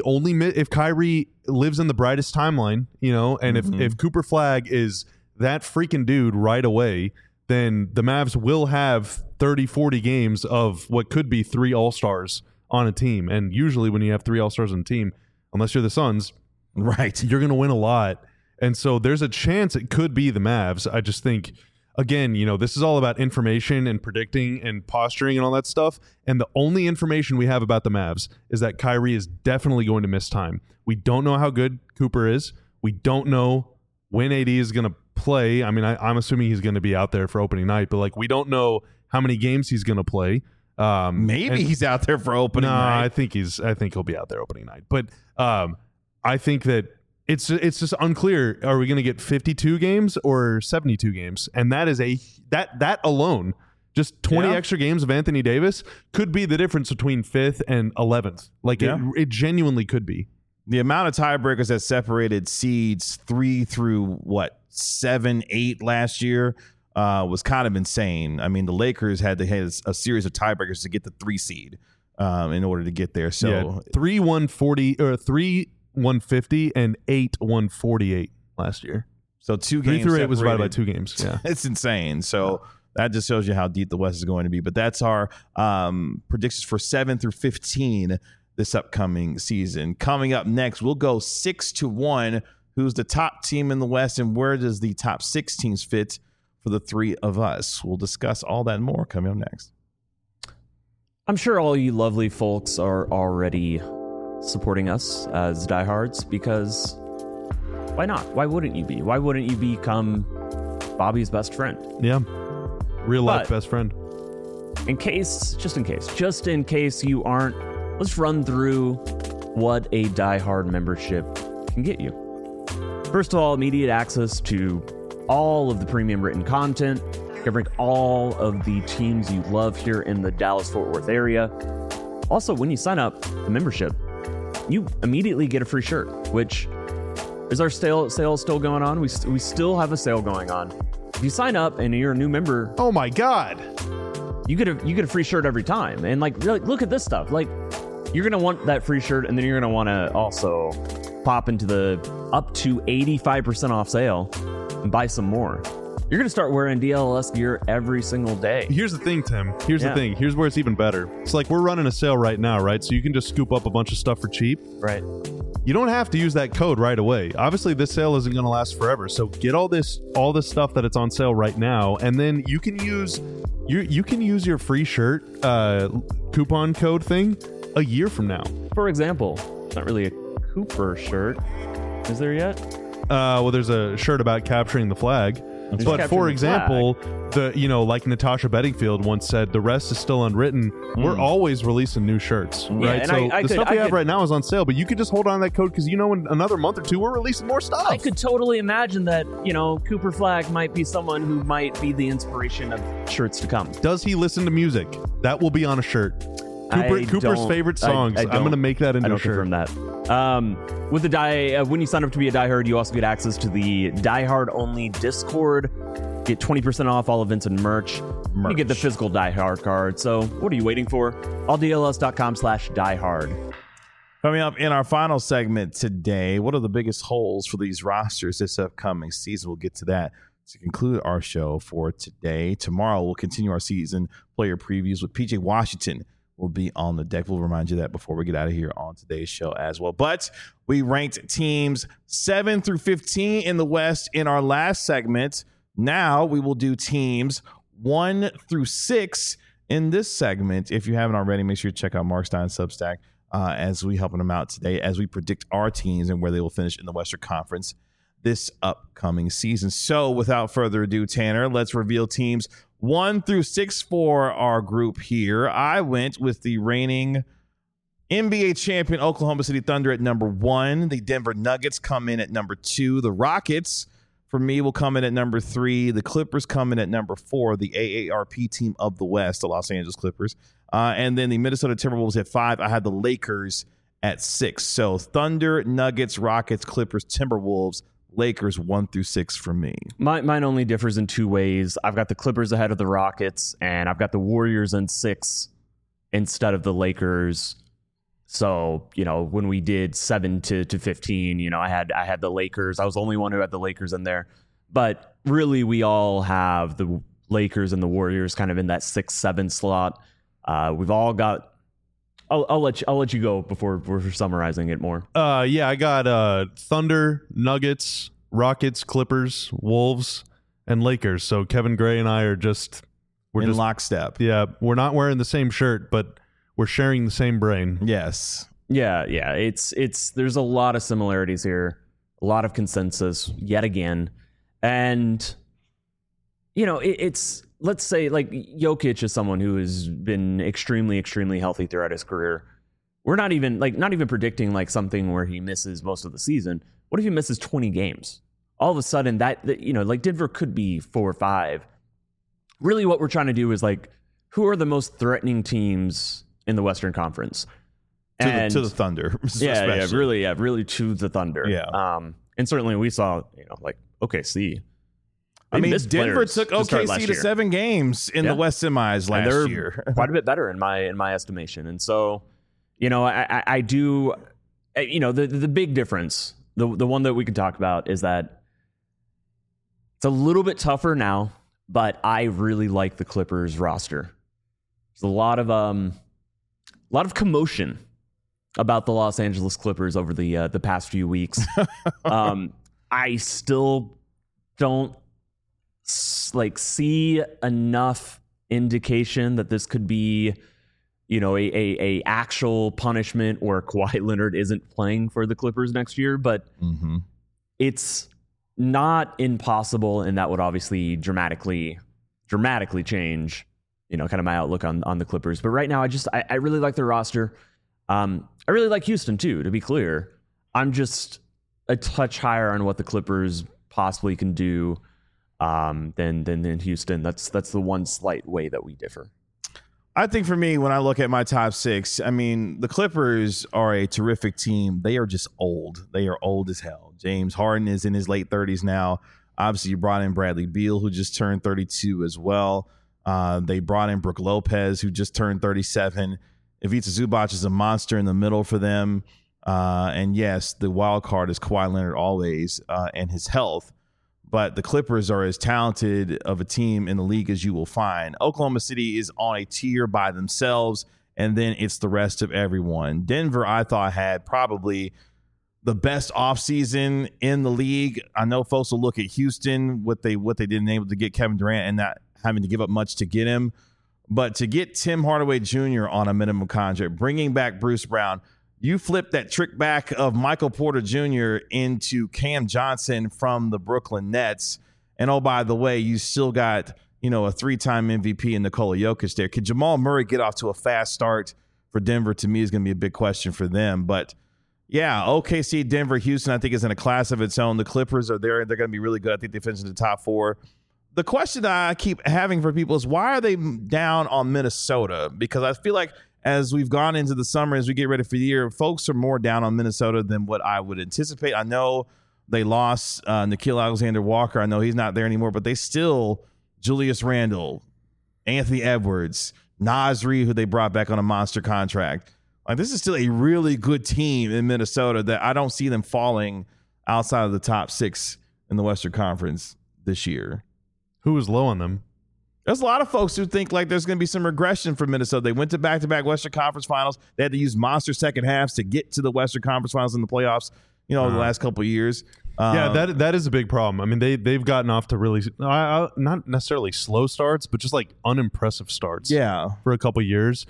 lives in the brightest timeline, and if Cooper Flagg is that freaking dude right away, then the Mavs will have 30, 40 games of what could be 3 All-Stars on a team. And usually when you have 3 All-Stars on a team, unless you're the Suns, right, you're going to win a lot. And so there's a chance it could be the Mavs. I just think, again, this is all about information and predicting and posturing and all that stuff. And the only information we have about the Mavs is that Kyrie is definitely going to miss time. We don't know how good Cooper is. We don't know when AD is going to play. I mean, I'm assuming he's going to be out there for opening night, but we don't know how many games he's going to play. Maybe he's out there for opening night. I think he'll be out there opening night. But I think that it's just unclear. Are we going to get 52 games or 72 games? And that is that alone, just 20 extra games of Anthony Davis could be the difference between 5th and 11th. It genuinely could be. The amount of tiebreakers that separated seeds 3 through 7, 8 last year was kind of insane. I mean, the Lakers had to have a series of tiebreakers to get the 3 seed in order to get there. So 3-140 or 3-150 and 8-148 last year. So 2 games. 3 through 8 separated. was divided by 2 games. Yeah, it's insane. So that just shows you how deep the West is going to be. But that's our predictions for 7 through 15 this upcoming season. Coming up next, we'll go 6-1. Who's the top team in the West, and where does the top 6 teams fit for the three of us. We'll discuss all that and more coming up next. I'm sure all you lovely folks are already supporting us as diehards, because why not? Why wouldn't you be? Why wouldn't you become Bobby's best friend? Yeah. Real life But- best friend. Just in case you aren't, let's run through what a diehard membership can get you. First of all, immediate access to all of the premium written content, covering all of the teams you love here in the Dallas-Fort Worth area. Also, when you sign up the membership, you immediately get a free shirt, which is our sale still going on. We still have a sale going on. If you sign up and you're a new member, Oh my God. you get a free shirt every time. And like, really, look at this stuff. Like, you're gonna want that free shirt, and then you're gonna want to also pop into the up to 85% off sale and buy some more. You're gonna start wearing DLS gear every single day. Here's the thing, Tim. Here's Yeah. the thing. Here's where it's even better. It's like we're running a sale right now, right? So you can just scoop up a bunch of stuff for cheap. Right. You don't have to use that code right away. Obviously, this sale isn't going to last forever. So get all this stuff that it's on sale right now, and then you can use your free shirt coupon code thing a year from now. For example, it's not really a Cooper shirt. Is there yet? Well, there's a shirt about capturing the flag. But capturing for the example, like Natasha Bedingfield once said, the rest is still unwritten. We're always releasing new shirts, right? and So I the could- stuff we I have could- right now is on sale, but you could just hold on to that code because in another month or two we're releasing more stuff. I could totally imagine that, Cooper Flag might be someone who might be the inspiration of shirts to come. Does he listen to music? That will be on a shirt. Cooper's don't- favorite songs. I'm going to make that into I a don't shirt. confirm that. With the when you sign up to be a diehard, you also get access to the diehard only Discord. Get 20% off all events and merch. You get the physical diehard card. So what are you waiting for? alldls.com/diehard. Coming up in our final segment today, what are the biggest holes for these rosters this upcoming season? We'll get to that to conclude our show for today. Tomorrow, we'll continue our season player previews with PJ Washington. Will be on the deck. We'll remind you that before we get out of here on today's show as well. But we ranked teams 7 through 15 in the West in our last segment. Now we will do teams 1 through 6 in this segment. If you haven't already, make sure you check out Mark Stein's Substack as we helping them out today as we predict our teams and where they will finish in the Western Conference this upcoming season. So without further ado, Tanner, let's reveal teams 1 through 6 for our group here. I went with the reigning NBA champion Oklahoma City Thunder at number 1. The Denver Nuggets come in at number 2. The Rockets, for me, will come in at number 3. The Clippers come in at number 4. The AARP team of the West, the Los Angeles Clippers. And then the Minnesota Timberwolves at 5. I had the Lakers at 6. So Thunder, Nuggets, Rockets, Clippers, Timberwolves, Lakers 1 through 6 for me. Mine only differs in 2 ways. I've got the Clippers ahead of the Rockets, and I've got the Warriors in 6 instead of the Lakers. So, when we did 7 to 15, I had the Lakers. I was the only one who had the Lakers in there. But really, we all have the Lakers and the Warriors kind of in that 6-7 slot. We've all got. I'll let you go before we're summarizing it more. Yeah, I got Thunder, Nuggets, Rockets, Clippers, Wolves, and Lakers. So Kevin Gray and I are we're in just lockstep. Yeah, we're not wearing the same shirt, but we're sharing the same brain. Yes. Yeah. It's there's a lot of similarities here, a lot of consensus yet again, and it's. Let's say like Jokic is someone who has been extremely, extremely healthy throughout his career. We're not even predicting like something where he misses most of the season. What if he misses 20 games? All of a sudden that like Denver could be 4 or 5. Really what we're trying to do is like, who are the most threatening teams in the Western Conference? To the Thunder. Really to the Thunder. Yeah. And certainly we saw, like OKC. I mean, missed Denver players took to start OKC last to year. 7 games in the West semis And they're last year. quite a bit better in my estimation. And so, I do, the big difference, the one that we can talk about is that it's a little bit tougher now, but I really like the Clippers roster. There's a lot of commotion about the Los Angeles Clippers over the past few weeks. I still don't see enough indication that this could be, a actual punishment where Kawhi Leonard isn't playing for the Clippers next year. But it's not impossible, and that would obviously dramatically change, kind of my outlook on the Clippers. But right now, I really like their roster. I really like Houston too, to be clear. I'm just a touch higher on what the Clippers possibly can do than Houston. That's the one slight way that we differ. I think for me, when I look at my top 6, I mean, the Clippers are a terrific team. They are just old. They are old as hell. James Harden is in his late 30s now. Obviously, you brought in Bradley Beal, who just turned 32 as well. They brought in Brook Lopez, who just turned 37. Ivica Zubac is a monster in the middle for them. And yes, the wild card is Kawhi Leonard always and his health. But the Clippers are as talented of a team in the league as you will find. Oklahoma City is on a tier by themselves, and then it's the rest of everyone. Denver, I thought, had probably the best offseason in the league. I know folks will look at Houston, what they didn't able to get Kevin Durant and not having to give up much to get him. But to get Tim Hardaway Jr. on a minimum contract, bringing back Bruce Brown, you flip that trick back of Michael Porter Jr. into Cam Johnson from the Brooklyn Nets. And oh, by the way, you still got, a 3-time MVP in Nikola Jokic there. Could Jamal Murray get off to a fast start for Denver? To me, is going to be a big question for them. But yeah, OKC, Denver, Houston, I think is in a class of its own. The Clippers are there. They're going to be really good. I think they finish in the top 4. The question that I keep having for people is, why are they down on Minnesota? Because I feel like as we've gone into the summer, as we get ready for the year, folks are more down on Minnesota than what I would anticipate. I know they lost Nickeil Alexander-Walker. I know he's not there anymore, but they still, Julius Randle, Anthony Edwards, Naz Reid, who they brought back on a monster contract. Like, this is still a really good team in Minnesota that I don't see them falling outside of the top 6 in the Western Conference this year. Who was low on them? There's a lot of folks who think like there's going to be some regression for Minnesota. They went to back-to-back Western Conference Finals. They had to use monster second halves to get to the Western Conference Finals in the playoffs, the last couple of years. Yeah, that is a big problem. I mean, they've gotten off to really not necessarily slow starts, but just like unimpressive starts. Yeah, for a couple of years.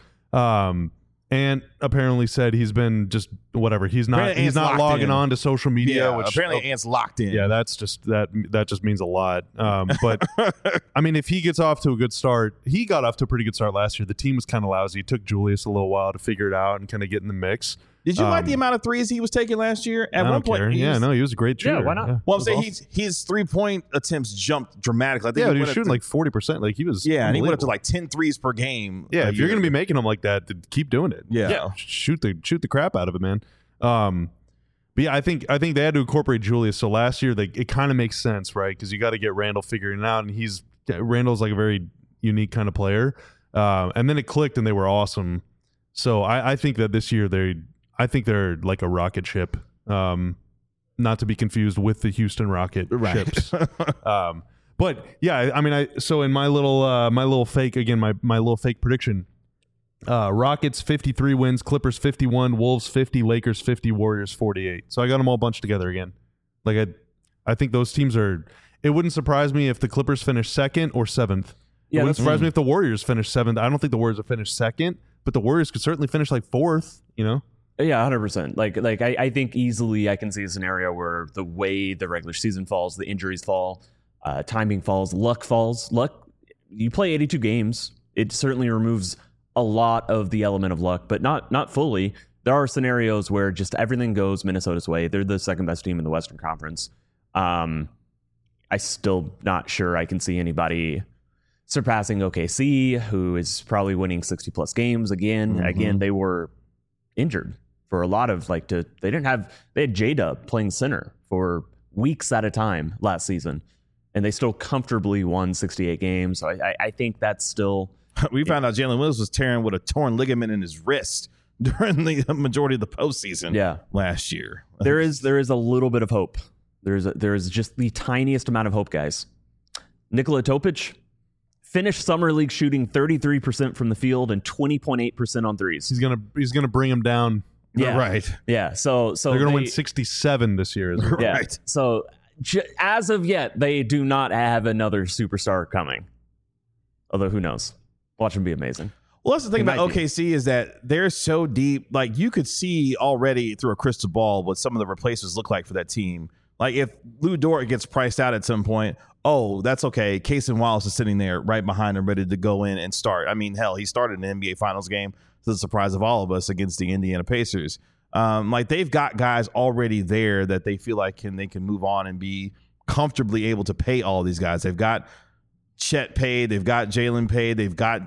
And apparently said he's been just whatever. He's not logging on to social media. Yeah, which apparently Ant's locked in. Yeah, that's just that just means a lot. But I mean, if he gets off to a good start, he got off to a pretty good start last year. The team was kind of lousy. It took Julius a little while to figure it out and kind of get in the mix. Did you like the amount of threes he was taking last year? At one point, he was a great shooter. Yeah, why not? Yeah. Well, I'm saying his 3-point attempts jumped dramatically. I think he was shooting like 40%. Like he was. Yeah, and he went up to like 10 threes per game. Yeah, if you're going to be making them like that, then keep doing it. Yeah. Shoot the crap out of it, man. But yeah, I think they had to incorporate Julius. So last year, it kind of makes sense, right? Because you got to get Randall figuring it out, and Randall's like a very unique kind of player. And then it clicked, and they were awesome. So I think that this year they're like a rocket ship, not to be confused with the Houston Rocket ships. But yeah, I mean, so in my little fake prediction, Rockets 53 wins, Clippers 51, Wolves 50, Lakers 50, Warriors 48. So I got them all bunched together again. Like I think those teams are. It wouldn't surprise me if the Clippers finish 2nd or 7th. Yeah, it wouldn't surprise me if the Warriors finish 7th. I don't think the Warriors will finish 2nd, but the Warriors could certainly finish like 4th. Yeah, 100%. Like I think easily I can see a scenario where the way the regular season falls, the injuries fall, timing falls, luck falls. Luck, you play 82 games. It certainly removes a lot of the element of luck, but not fully. There are scenarios where just everything goes Minnesota's way. They're the second best team in the Western Conference. I still not sure I can see anybody surpassing OKC, who is probably winning 60 plus games again. Mm-hmm. Again, they were injured for a lot of they had J-Dub playing center for weeks at a time last season, and they still comfortably won 68 games. So I think that's still. We found out Jalen Williams was tearing with a torn ligament in his wrist during the majority of the postseason last year. There is a little bit of hope. There is just the tiniest amount of hope, guys. Nikola Topic finished Summer League shooting 33% from the field and 20.8% on threes. He's gonna bring him down. Yeah. Right. Yeah. So they're gonna win 67 this year. Yeah. Right. So as of yet, they do not have another superstar coming. Although, who knows? Watch him be amazing. Well, that's the thing about OKC is that they're so deep. Like, you could see already through a crystal ball what some of the replacements look like for that team. Like, if Lou Dort gets priced out at some point, oh, that's okay. Cason Wallace is sitting there right behind him, ready to go in and start. I mean, hell, he started an NBA Finals game to the surprise of all of us against the Indiana Pacers. Like, they've got guys already there that they feel like they can move on and be comfortably able to pay all these guys. They've got Chet paid. They've got Jalen paid. They've got,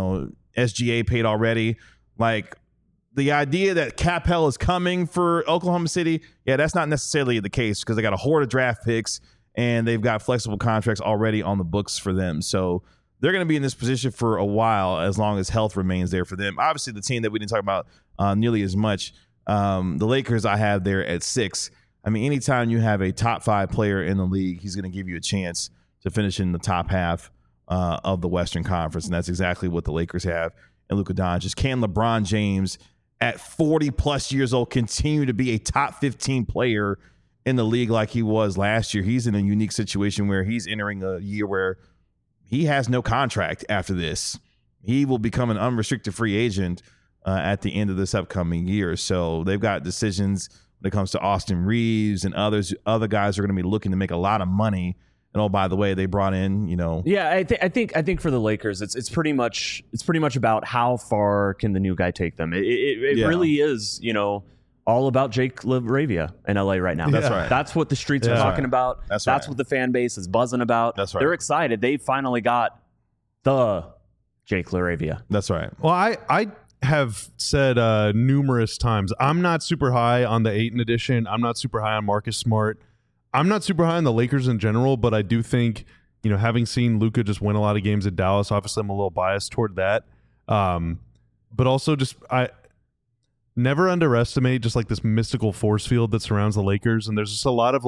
SGA paid already. Like, the idea that cap hell is coming for Oklahoma City, yeah, that's not necessarily the case because they got a horde of draft picks and they've got flexible contracts already on the books for them. So they're going to be in this position for a while as long as health remains there for them. Obviously, the team that we didn't talk about nearly as much, the Lakers I have there at 6. I mean, anytime you have a top 5 player in the league, he's going to give you a chance to finish in the top half of the Western Conference, and that's exactly what the Lakers have. And Luka Doncic. Can LeBron James, at 40-plus years old, continue to be a top 15 player in the league like he was last year? He's in a unique situation where he's entering a year where he has no contract after this. He will become an unrestricted free agent at the end of this upcoming year. So they've got decisions when it comes to Austin Reeves and other guys are going to be looking to make a lot of money. And oh, by the way, they brought in, Yeah, I think for the Lakers, it's pretty much about how far can the new guy take them. It really is, all about Jake LaRavia in LA right now. That's right. That's what the streets are talking about. That's what the fan base is buzzing about. That's right. They're excited. They finally got the Jake LaRavia. That's right. Well, I have said numerous times, I'm not super high on the Ayton edition. I'm not super high on Marcus Smart. I'm not super high on the Lakers in general, but I do think, having seen Luka just win a lot of games at Dallas, obviously I'm a little biased toward that. But also I never underestimate just like this mystical force field that surrounds the Lakers. And there's just a lot of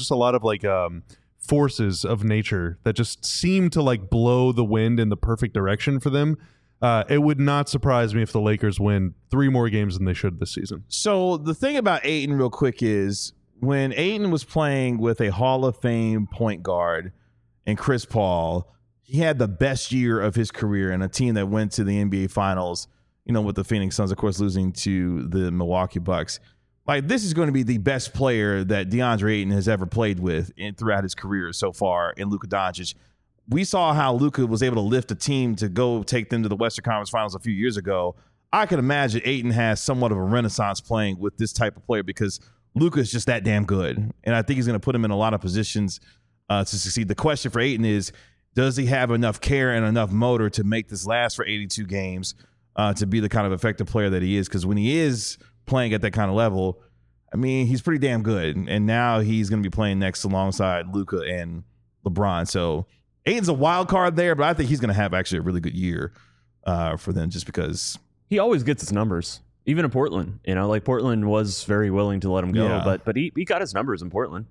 forces of nature that just seem to like blow the wind in the perfect direction for them. It would not surprise me if the Lakers win 3 more games than they should this season. So the thing about Ayton real quick is, when Ayton was playing with a Hall of Fame point guard and Chris Paul, he had the best year of his career in a team that went to the NBA Finals, with the Phoenix Suns, of course, losing to the Milwaukee Bucks. Like, this is going to be the best player that DeAndre Ayton has ever played with throughout his career so far in Luka Doncic. We saw how Luka was able to lift a team to go take them to the Western Conference Finals a few years ago. I can imagine Ayton has somewhat of a renaissance playing with this type of player because Luka is just that damn good. And I think he's going to put him in a lot of positions to succeed. The question for Ayton is, does he have enough care and enough motor to make this last for 82 games to be the kind of effective player that he is? Because when he is playing at that kind of level, I mean, he's pretty damn good. And now he's going to be playing next alongside Luka and LeBron. So Ayton's a wild card there, but I think he's going to have actually a really good year for them just because. He always gets his numbers. Even in Portland, like Portland was very willing to let him go, but he got his numbers in Portland.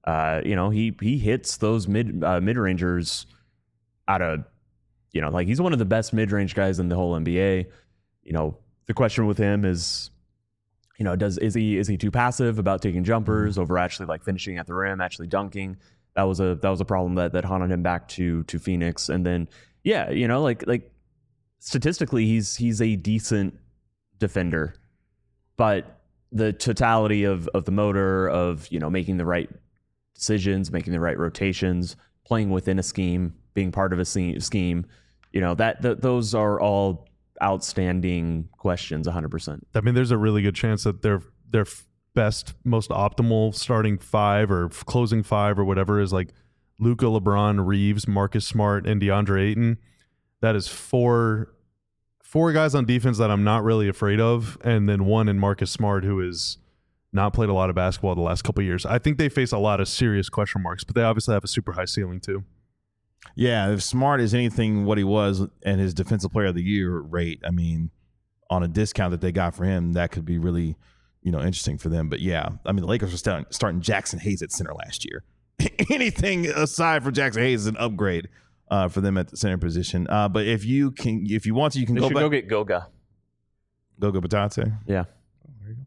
He hits those mid-rangers out of, like he's one of the best mid-range guys in the whole NBA. The question with him is, is he too passive about taking jumpers over actually like finishing at the rim, actually dunking? That was a problem that haunted him back to Phoenix. And then like statistically he's a decent defender, but the totality of the motor of making the right decisions, making the right rotations, playing within a scheme, being part of a scheme, those are all outstanding questions. 100%. I mean, there's a really good chance that their best, most optimal starting 5 or closing 5 or whatever is like Luka, LeBron, Reeves, Marcus Smart, and DeAndre Ayton. That is 4 guys on defense that I'm not really afraid of, and then 1 in Marcus Smart, who has not played a lot of basketball the last couple of years. I think they face a lot of serious question marks, but they obviously have a super high ceiling too. Yeah, if Smart is anything what he was and his Defensive Player of the Year rate, I mean, on a discount that they got for him, that could be really, interesting for them. But yeah, I mean, the Lakers were starting Jackson Hayes at center last year. Anything aside from Jackson Hayes is an upgrade for them at the center position. But if you want to, you can go get Goga Batate. Yeah.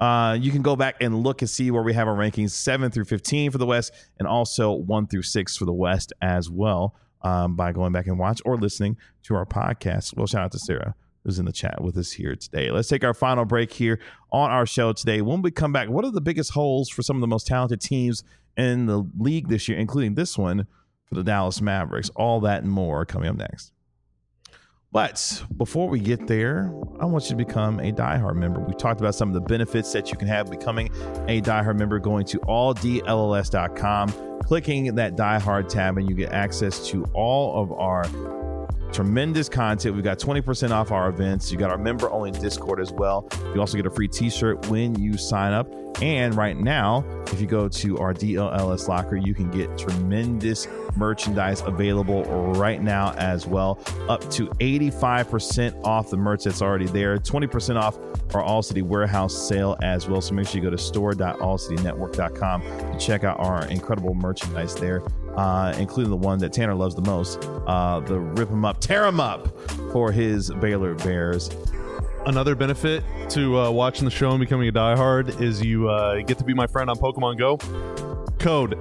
You can go back and look and see where we have our rankings 7 through 15 for the West and also 1 through 6 for the West as well by going back and watch or listening to our podcast. Well, shout out to Sarah, who's in the chat with us here today. Let's take our final break here on our show today. When we come back, what are the biggest holes for some of the most talented teams in the league this year, including this one for the Dallas Mavericks? All that and more coming up next. But before we get there, I want you to become a diehard member. We talked about some of the benefits that you can have becoming a diehard member, going to alldlls.com, clicking that diehard tab, and you get access to all of our tremendous content. We've got 20% off our events. You got our member only Discord as well. You also get a free t-shirt when you sign up. And right now, if you go to our DLLS locker, you can get tremendous merchandise available right now as well. Up to 85% off the merch that's already there. 20% off our All City Warehouse sale as well. So make sure you go to store.allcitynetwork.com and check out our incredible merchandise there. Including the one that Tanner loves the most, the Rip 'em Up, Tear 'em Up for his Baylor Bears. Another benefit to watching the show and becoming a diehard is you get to be my friend on Pokemon Go. Code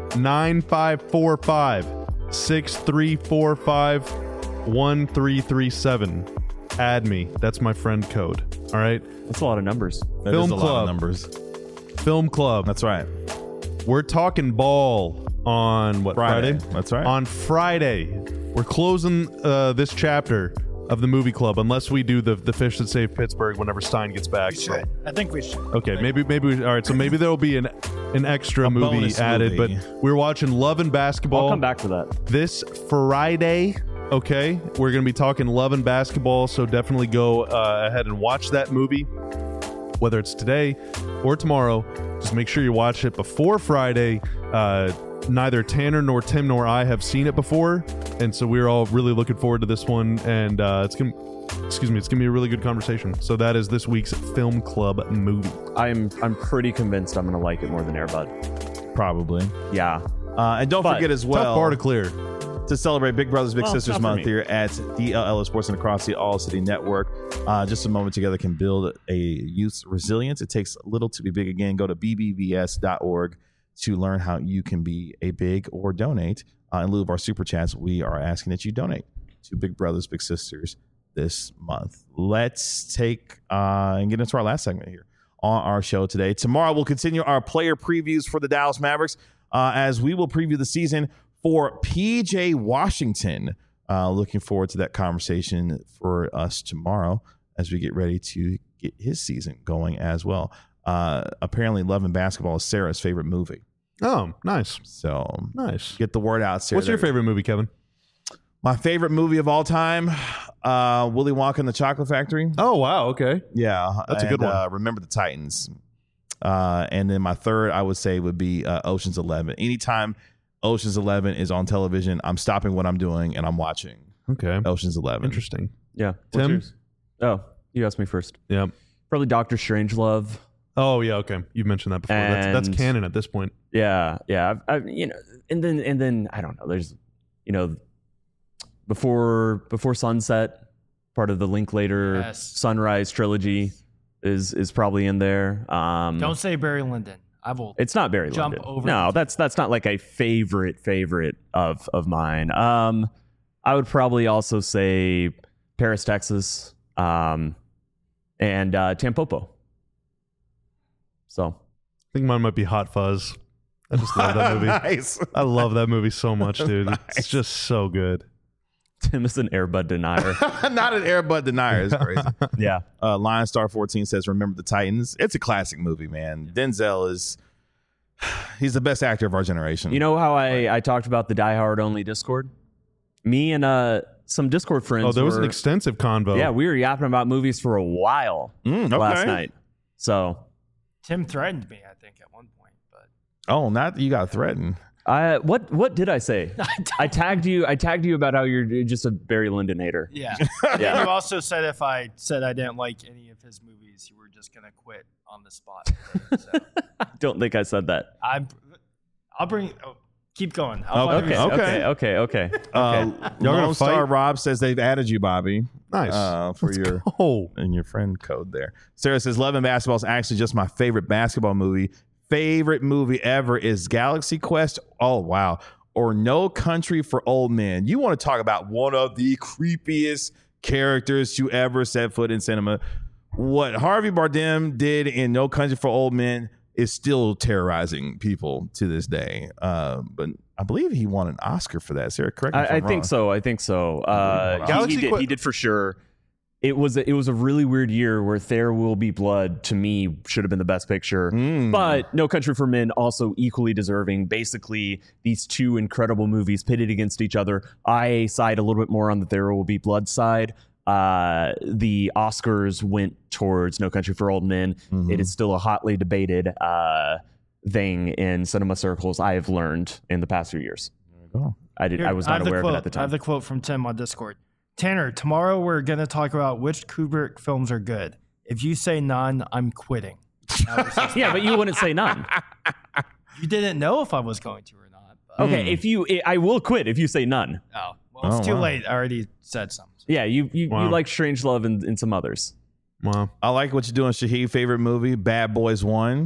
9545-6345-1337. Add me. That's my friend code. All right? That's a lot of numbers. That Film is a Club. lot of numbers. Film Club. That's right. We're talking ball on what, Friday? That's right. On Friday. We're closing this chapter of the movie club unless we do the Fish That Saved Pittsburgh whenever Stein gets back. We should. I think we should. Okay, maybe we, all right, so maybe there'll be an extra movie bonus added, movie. but we're watching Love and Basketball. I'll come back to that. This Friday. Okay, we're going to be talking Love and Basketball, so definitely go ahead and watch that movie, whether it's today or tomorrow. Just make sure you watch it before Friday. Neither Tanner nor Tim nor I have seen it before, and so we're all really looking forward to this one, and it's gonna be a really good conversation. So that is this week's Film Club movie. I'm pretty convinced I'm gonna like it more than Air Bud. Probably. Yeah. And don't But forget as well, Tough bar to clear. to celebrate Big Brothers Big Well, Sisters not for month me. here at DLL Sports and across the All City Network. Just a moment together can build a youth's resilience. It takes little to be big again. Go to bbvs.org to learn how you can be a big or donate. In lieu of our super chats, we are asking that you donate to Big Brothers Big Sisters this month. Let's take and get into our last segment here on our show today. Tomorrow we'll continue our player previews for the Dallas Mavericks as we will preview the season for PJ Washington. Looking forward to that conversation for us tomorrow as we get ready to get his season going as well. Apparently Love and Basketball is Sarah's favorite movie. Oh, nice. So Nice. get the word out, Sarah. What's your favorite movie, Kevin? My favorite movie of all time, Willy Wonka and the Chocolate Factory. Oh, wow. Okay. Yeah. That's a good one. Remember the Titans. And then my third, I would say, would be Ocean's 11. Anytime Ocean's 11 is on television, I'm stopping what I'm doing and I'm watching Okay. Ocean's 11. Interesting. Yeah. What's Tim? yours? Oh, you asked me first. Yeah. Probably Doctor Strangelove. Oh, yeah. Okay. You've mentioned that before. That's And- canon at this point. Yeah, yeah. I've and then I don't know. There's, before sunset, part of the Linklater Yes. Sunrise trilogy is probably in there. Don't say Barry Lyndon. I will. It's not Barry Jump Lyndon. over No, the- that's not like a favorite of mine. I would probably also say Paris, Texas, and Tampopo. So I think mine might be Hot Fuzz. I just love that movie. Nice. I love that movie so much, dude. It's just so good. Tim is an Air Bud denier. Not an Air Bud denier. It's crazy. Yeah. Lion Star 14 says, "Remember the Titans." It's a classic movie, man. Denzel he's the best actor of our generation. You know how I talked about the Die Hard only Discord? Me and some Discord friends. Oh, there was an were- extensive convo. Yeah, we were yapping about movies for a while okay. last night. So Tim threatened me, I think, at one point. But Oh, not you got threatened. what did I say? I tagged you about how you're just a Barry Lyndon hater. yeah. Yeah. And you also said if I said I didn't like any of his movies, you were just gonna quit on the spot. So I don't think I said that. I'll bring. Oh, Keep going. Okay. Okay. Lone Star Rob says they've added you, Bobby. Nice. For your friend code there. Sarah says Love and Basketball is actually just my favorite basketball movie. Favorite movie ever is Galaxy Quest. Oh wow. Or No Country for Old Men. You want to talk about one of the creepiest characters to ever set foot in cinema. What Harvey Bardem did in No Country for Old Men is still terrorizing people to this day. But I believe he won an Oscar for that. Sarah, correct me if I'm wrong. I think so. He did for sure. It was a really weird year where There Will Be Blood, to me, should have been the best picture. But No Country for Men also equally deserving. Basically, these two incredible movies pitted against each other. I side a little bit more on the There Will Be Blood side. The Oscars went towards No Country for Old Men. It is still a hotly debated thing in cinema circles, I have learned in the past few years. I was not aware of it at the time. I have the quote from Tim on Discord. Tanner, tomorrow we're going to talk about which Kubrick films are good. If you say none, I'm quitting. Yeah, but you wouldn't say none. You didn't know if I was going to or not. But. Okay, I will quit if you say none. Oh, well, it's too late. I already said something. Yeah, you like Strangelove and some others. Wow. I like what you're doing, Shahid. Favorite movie, Bad Boys 1.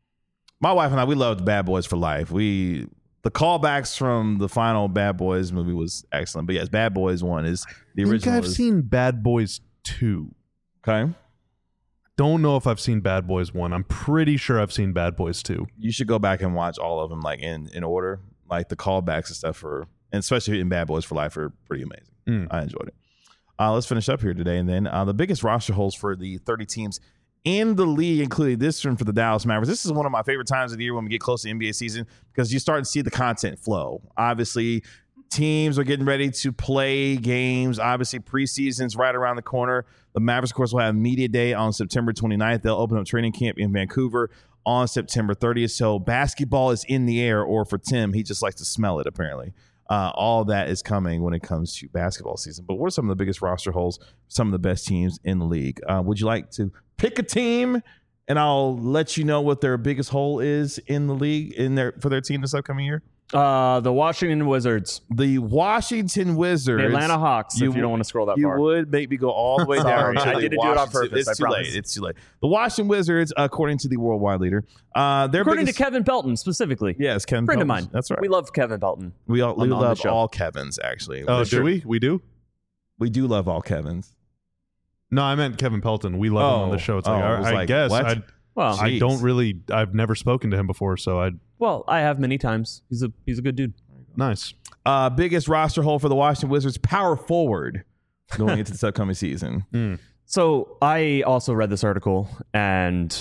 My wife and I, we loved Bad Boys for life. The callbacks from the final Bad Boys movie was excellent. But yes, Bad Boys 1 is the original. I think I've seen Bad Boys 2. Okay. Don't know if I've seen Bad Boys 1. I'm pretty sure I've seen Bad Boys 2. You should go back and watch all of them like in order. Like the callbacks and stuff and especially in Bad Boys for Life are pretty amazing. I enjoyed it. Let's finish up here today. And then the biggest roster holes for the 30 teams in the league, including this one for the Dallas Mavericks. This is one of my favorite times of the year when we get close to NBA season because you start to see the content flow. Obviously, teams are getting ready to play games. Obviously, preseason's right around the corner. The Mavericks, of course, will have Media Day on September 29th. They'll open up training camp in Vancouver on September 30th. So basketball is in the air, or for Tim, he just likes to smell it, apparently. All that is coming when it comes to basketball season. But what are some of the biggest roster holes, some of the best teams in the league? Would you like to pick a team, and I'll let you know what their biggest hole is in the league for their team this upcoming year? The Washington Wizards. The Washington Wizards. The Atlanta Hawks, if you don't want to scroll that you far. You would make me go all the way down. I didn't do it on purpose. It's too late. It's too late. The Washington Wizards, according to the worldwide leader. According to Kevin Pelton, specifically. Yes, Kevin Friend Pelton. of mine. That's right. We love Kevin Pelton. We love all Kevins, actually. Oh, do we? We do? We do love all Kevins. No, I meant Kevin Pelton. We love him on the show. It's I guess. What? I don't really. I've never spoken to him before, so I have many times. He's a good dude. Nice. Biggest roster hole for the Washington Wizards, power forward, going into this upcoming season. So I also read this article, and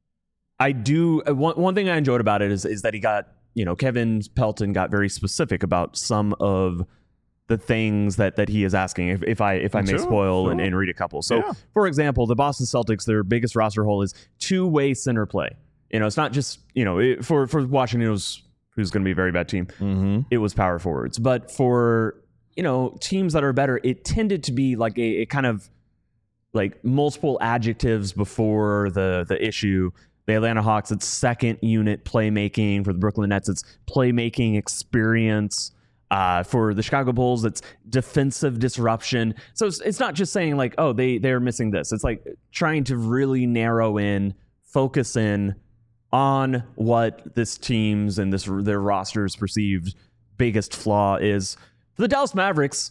I do one thing I enjoyed about it is that he got, Kevin Pelton got very specific about some of the things that he is asking, if I may spoil and read a couple. So, for example, the Boston Celtics, their biggest roster hole is two-way center play. It's not just, for Washington, it was who's going to be a very bad team. It was power forwards. But for, teams that are better, it tended to be like a kind of like multiple adjectives before the issue. The Atlanta Hawks, it's second unit playmaking. For the Brooklyn Nets, it's playmaking experience. For the Chicago Bulls, it's defensive disruption. So it's not just saying like, oh, they're missing this. It's like trying to really narrow in, focus in on what this team's and their roster's perceived biggest flaw is. For the Dallas Mavericks,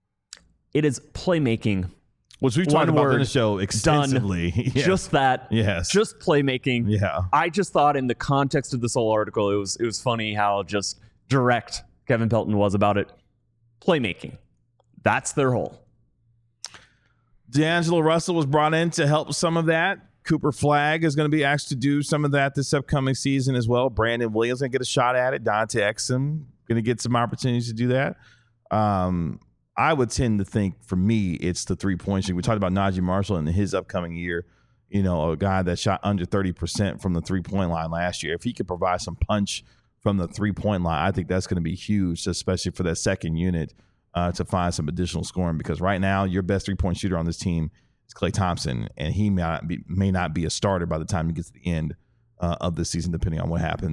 it is playmaking. Which we've talked about in the show extensively. Yes. Just that. Yes. Just playmaking. Yeah. I just thought in the context of this whole article, it was funny how just direct Kevin Pelton was about it. Playmaking. That's their hole. D'Angelo Russell was brought in to help some of that. Cooper Flagg is going to be asked to do some of that this upcoming season as well. Brandon Williams going to get a shot at it. Dante Exum going to get some opportunities to do that. I would tend to think, for me, it's the three-point shooting. We talked about Najee Marshall in his upcoming year, a guy that shot under 30% from the three-point line last year. If he could provide some punch from the three-point line, I think that's going to be huge, especially for that second unit to find some additional scoring, because right now your best three-point shooter on this team is Klay Thompson, and he may not be a starter by the time he gets to the end of this season, depending on what happens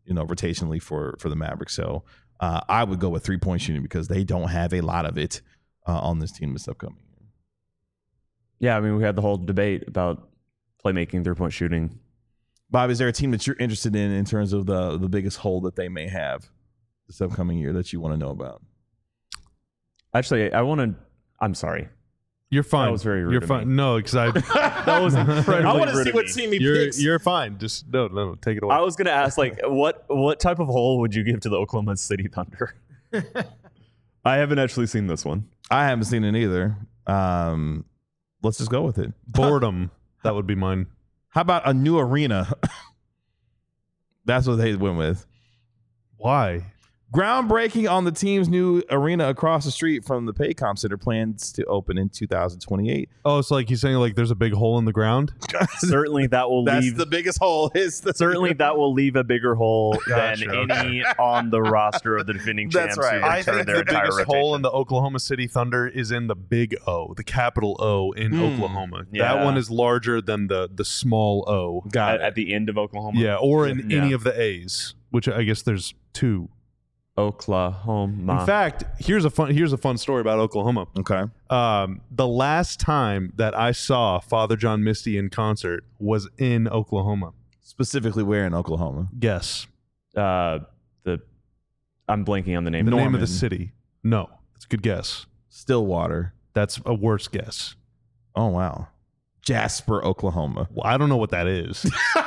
rotationally for the Mavericks. So I would go with 3-point shooting because they don't have a lot of it on this team this upcoming year. Yeah, I mean, we had the whole debate about playmaking, 3-point shooting. Bob, is there a team that you're interested in terms of the biggest hole that they may have this upcoming year that you want to know about? Actually, I'm sorry. You're fine. That was very rude You're of fine. me. No, because That was incredibly I want to rude see of what me. team he picks. you're fine. Just no, take it away. I was going to ask, like, what type of hole would you give to the Oklahoma City Thunder? I haven't actually seen this one. I haven't seen it either. Let's just go with it. Boredom. That would be mine. How about a new arena? That's what they went with. Why? Groundbreaking on the team's new arena across the street from the Paycom Center, plans to open in 2028. Oh, it's like he's saying like there's a big hole in the ground. Certainly that will That's leave the biggest hole. certainly that will leave a bigger hole Gotcha, than any on the roster of the defending champs. That's right. who I return think their the entire biggest rotation. hole in the Oklahoma City Thunder is in the big O, the capital O in Oklahoma. Yeah. That one is larger than the small O. Got at the end of Oklahoma. Yeah, or in Yeah. any of the A's, which I guess there's two. Oklahoma. In fact, here's a fun story about Oklahoma. Okay. The last time that I saw Father John Misty in concert was in Oklahoma. Specifically where in Oklahoma? Guess I'm blanking on the name. the name of Norman. the city. No, that's a good guess. Stillwater. That's a worse guess. Oh, wow. Jasper, Oklahoma. Well, I don't know what that is.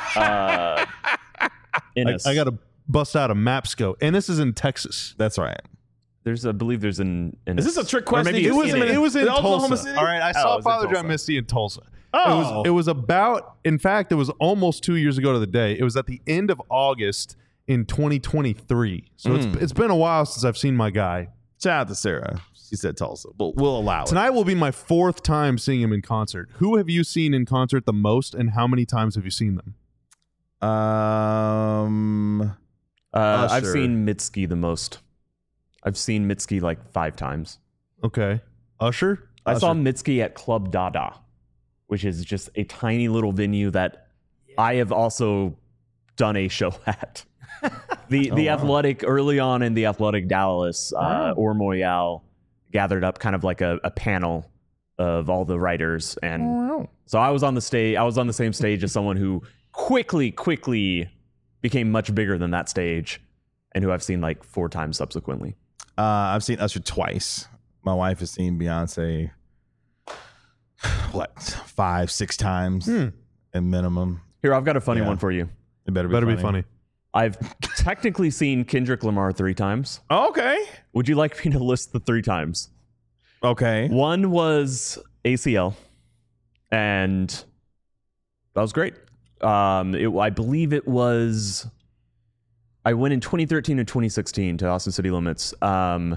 Ennis. I got to bust out a Mapsco. And this is in Texas. That's right. I believe there's an. Is this a trick Or question? maybe It was in it was in Oklahoma Tulsa. City? All right, I saw it was in Father John Tulsa. Misty in Tulsa. Oh. It was about, in fact, it was almost 2 years ago to the day. It was at the end of August in 2023. So it's been a while since I've seen my guy. Shout out to Sarah. She said Tulsa, but we'll allow it. Tonight will be my fourth time seeing him in concert. Who have you seen in concert the most, and how many times have you seen them? I've Usher. seen Mitski the most. I've seen Mitski like 5 times. Okay. Usher? I saw Mitski at Club Dada, which is just a tiny little venue that I have also done a show at. The Athletic, early on in the Athletic Dallas, or Moyal gathered up kind of like a panel of all the writers. And so I was on the stage. I was on the same stage as someone who quickly became much bigger than that stage and who I've seen like 4 times subsequently. I've seen Usher twice. My wife has seen Beyonce, 5-6 times at minimum. Here, I've got a funny Yeah. one for you. It better Better be funny. I've technically seen Kendrick Lamar 3 times. Okay. Would you like me to list the 3 times? Okay. One was ACL, and that was great. I believe it was. I went in 2013 and 2016 to Austin City Limits, and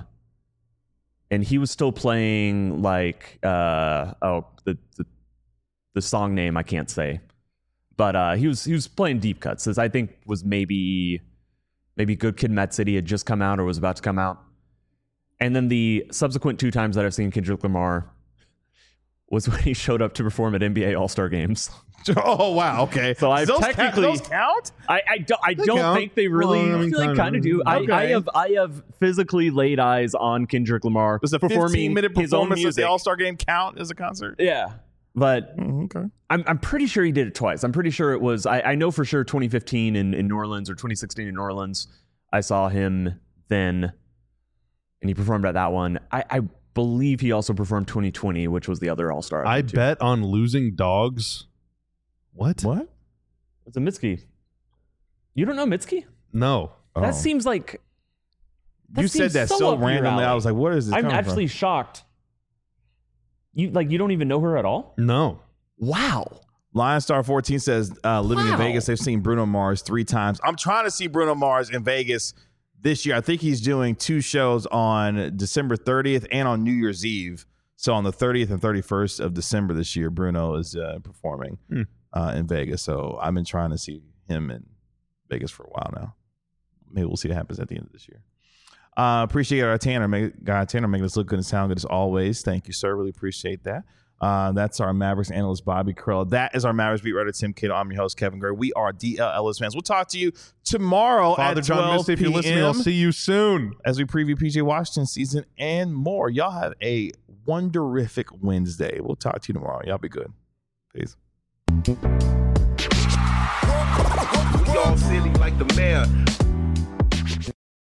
he was still playing like the song name I can't say, but he was playing deep cuts. This I think was maybe Good Kid, Mad City had just come out or was about to come out. And then the subsequent 2 times that I've seen Kendrick Lamar was when he showed up to perform at NBA All-Star games. Oh, wow. Okay. So I've those technically those count? I don't count. think they really. Well, I I mean, feel like kinda. kind of do. Okay. I have physically laid eyes on Kendrick Lamar Does a performing 15-minute his own performance at music. the All-Star game count as a concert? Yeah, but Okay. I'm pretty sure he did it twice. I'm pretty sure it was. I know for sure 2015 in New Orleans or 2016 in New Orleans. I saw him then, and he performed at that one. I believe he also performed 2020, which was the other All-Star. I bet on losing dogs. What? What? It's a Mitski. You don't know Mitski? No. That seems like. You said seems that so up your randomly. I alley. was like, what is this? I'm coming actually shocked. You don't even know her at all? No. Wow. from? Lionstar 14 says, living in Wow. Vegas, they've seen Bruno Mars 3 times. I'm trying to see Bruno Mars in Vegas this year. I think he's doing 2 shows on December 30th and on New Year's Eve. So on the 30th and 31st of December this year, Bruno is performing in Vegas. So I've been trying to see him in Vegas for a while now. Maybe we'll see what happens at the end of this year. Appreciate our Tanner, Tanner making us look good and sound good as always. Thank you, sir. Really appreciate that. That's our Mavericks analyst, Bobby Carell. That is our Mavericks beat writer, Tim Cato. I'm your host, Kevin Gray. We are DL Ellis fans. We'll talk to you tomorrow Father at John 12 Misty, if you're listening, I'll p.m. see you soon. as we preview PJ Washington season and more. Y'all have a wonderific Wednesday. We'll talk to you tomorrow. Y'all be good. Peace. We all silly like the mayor.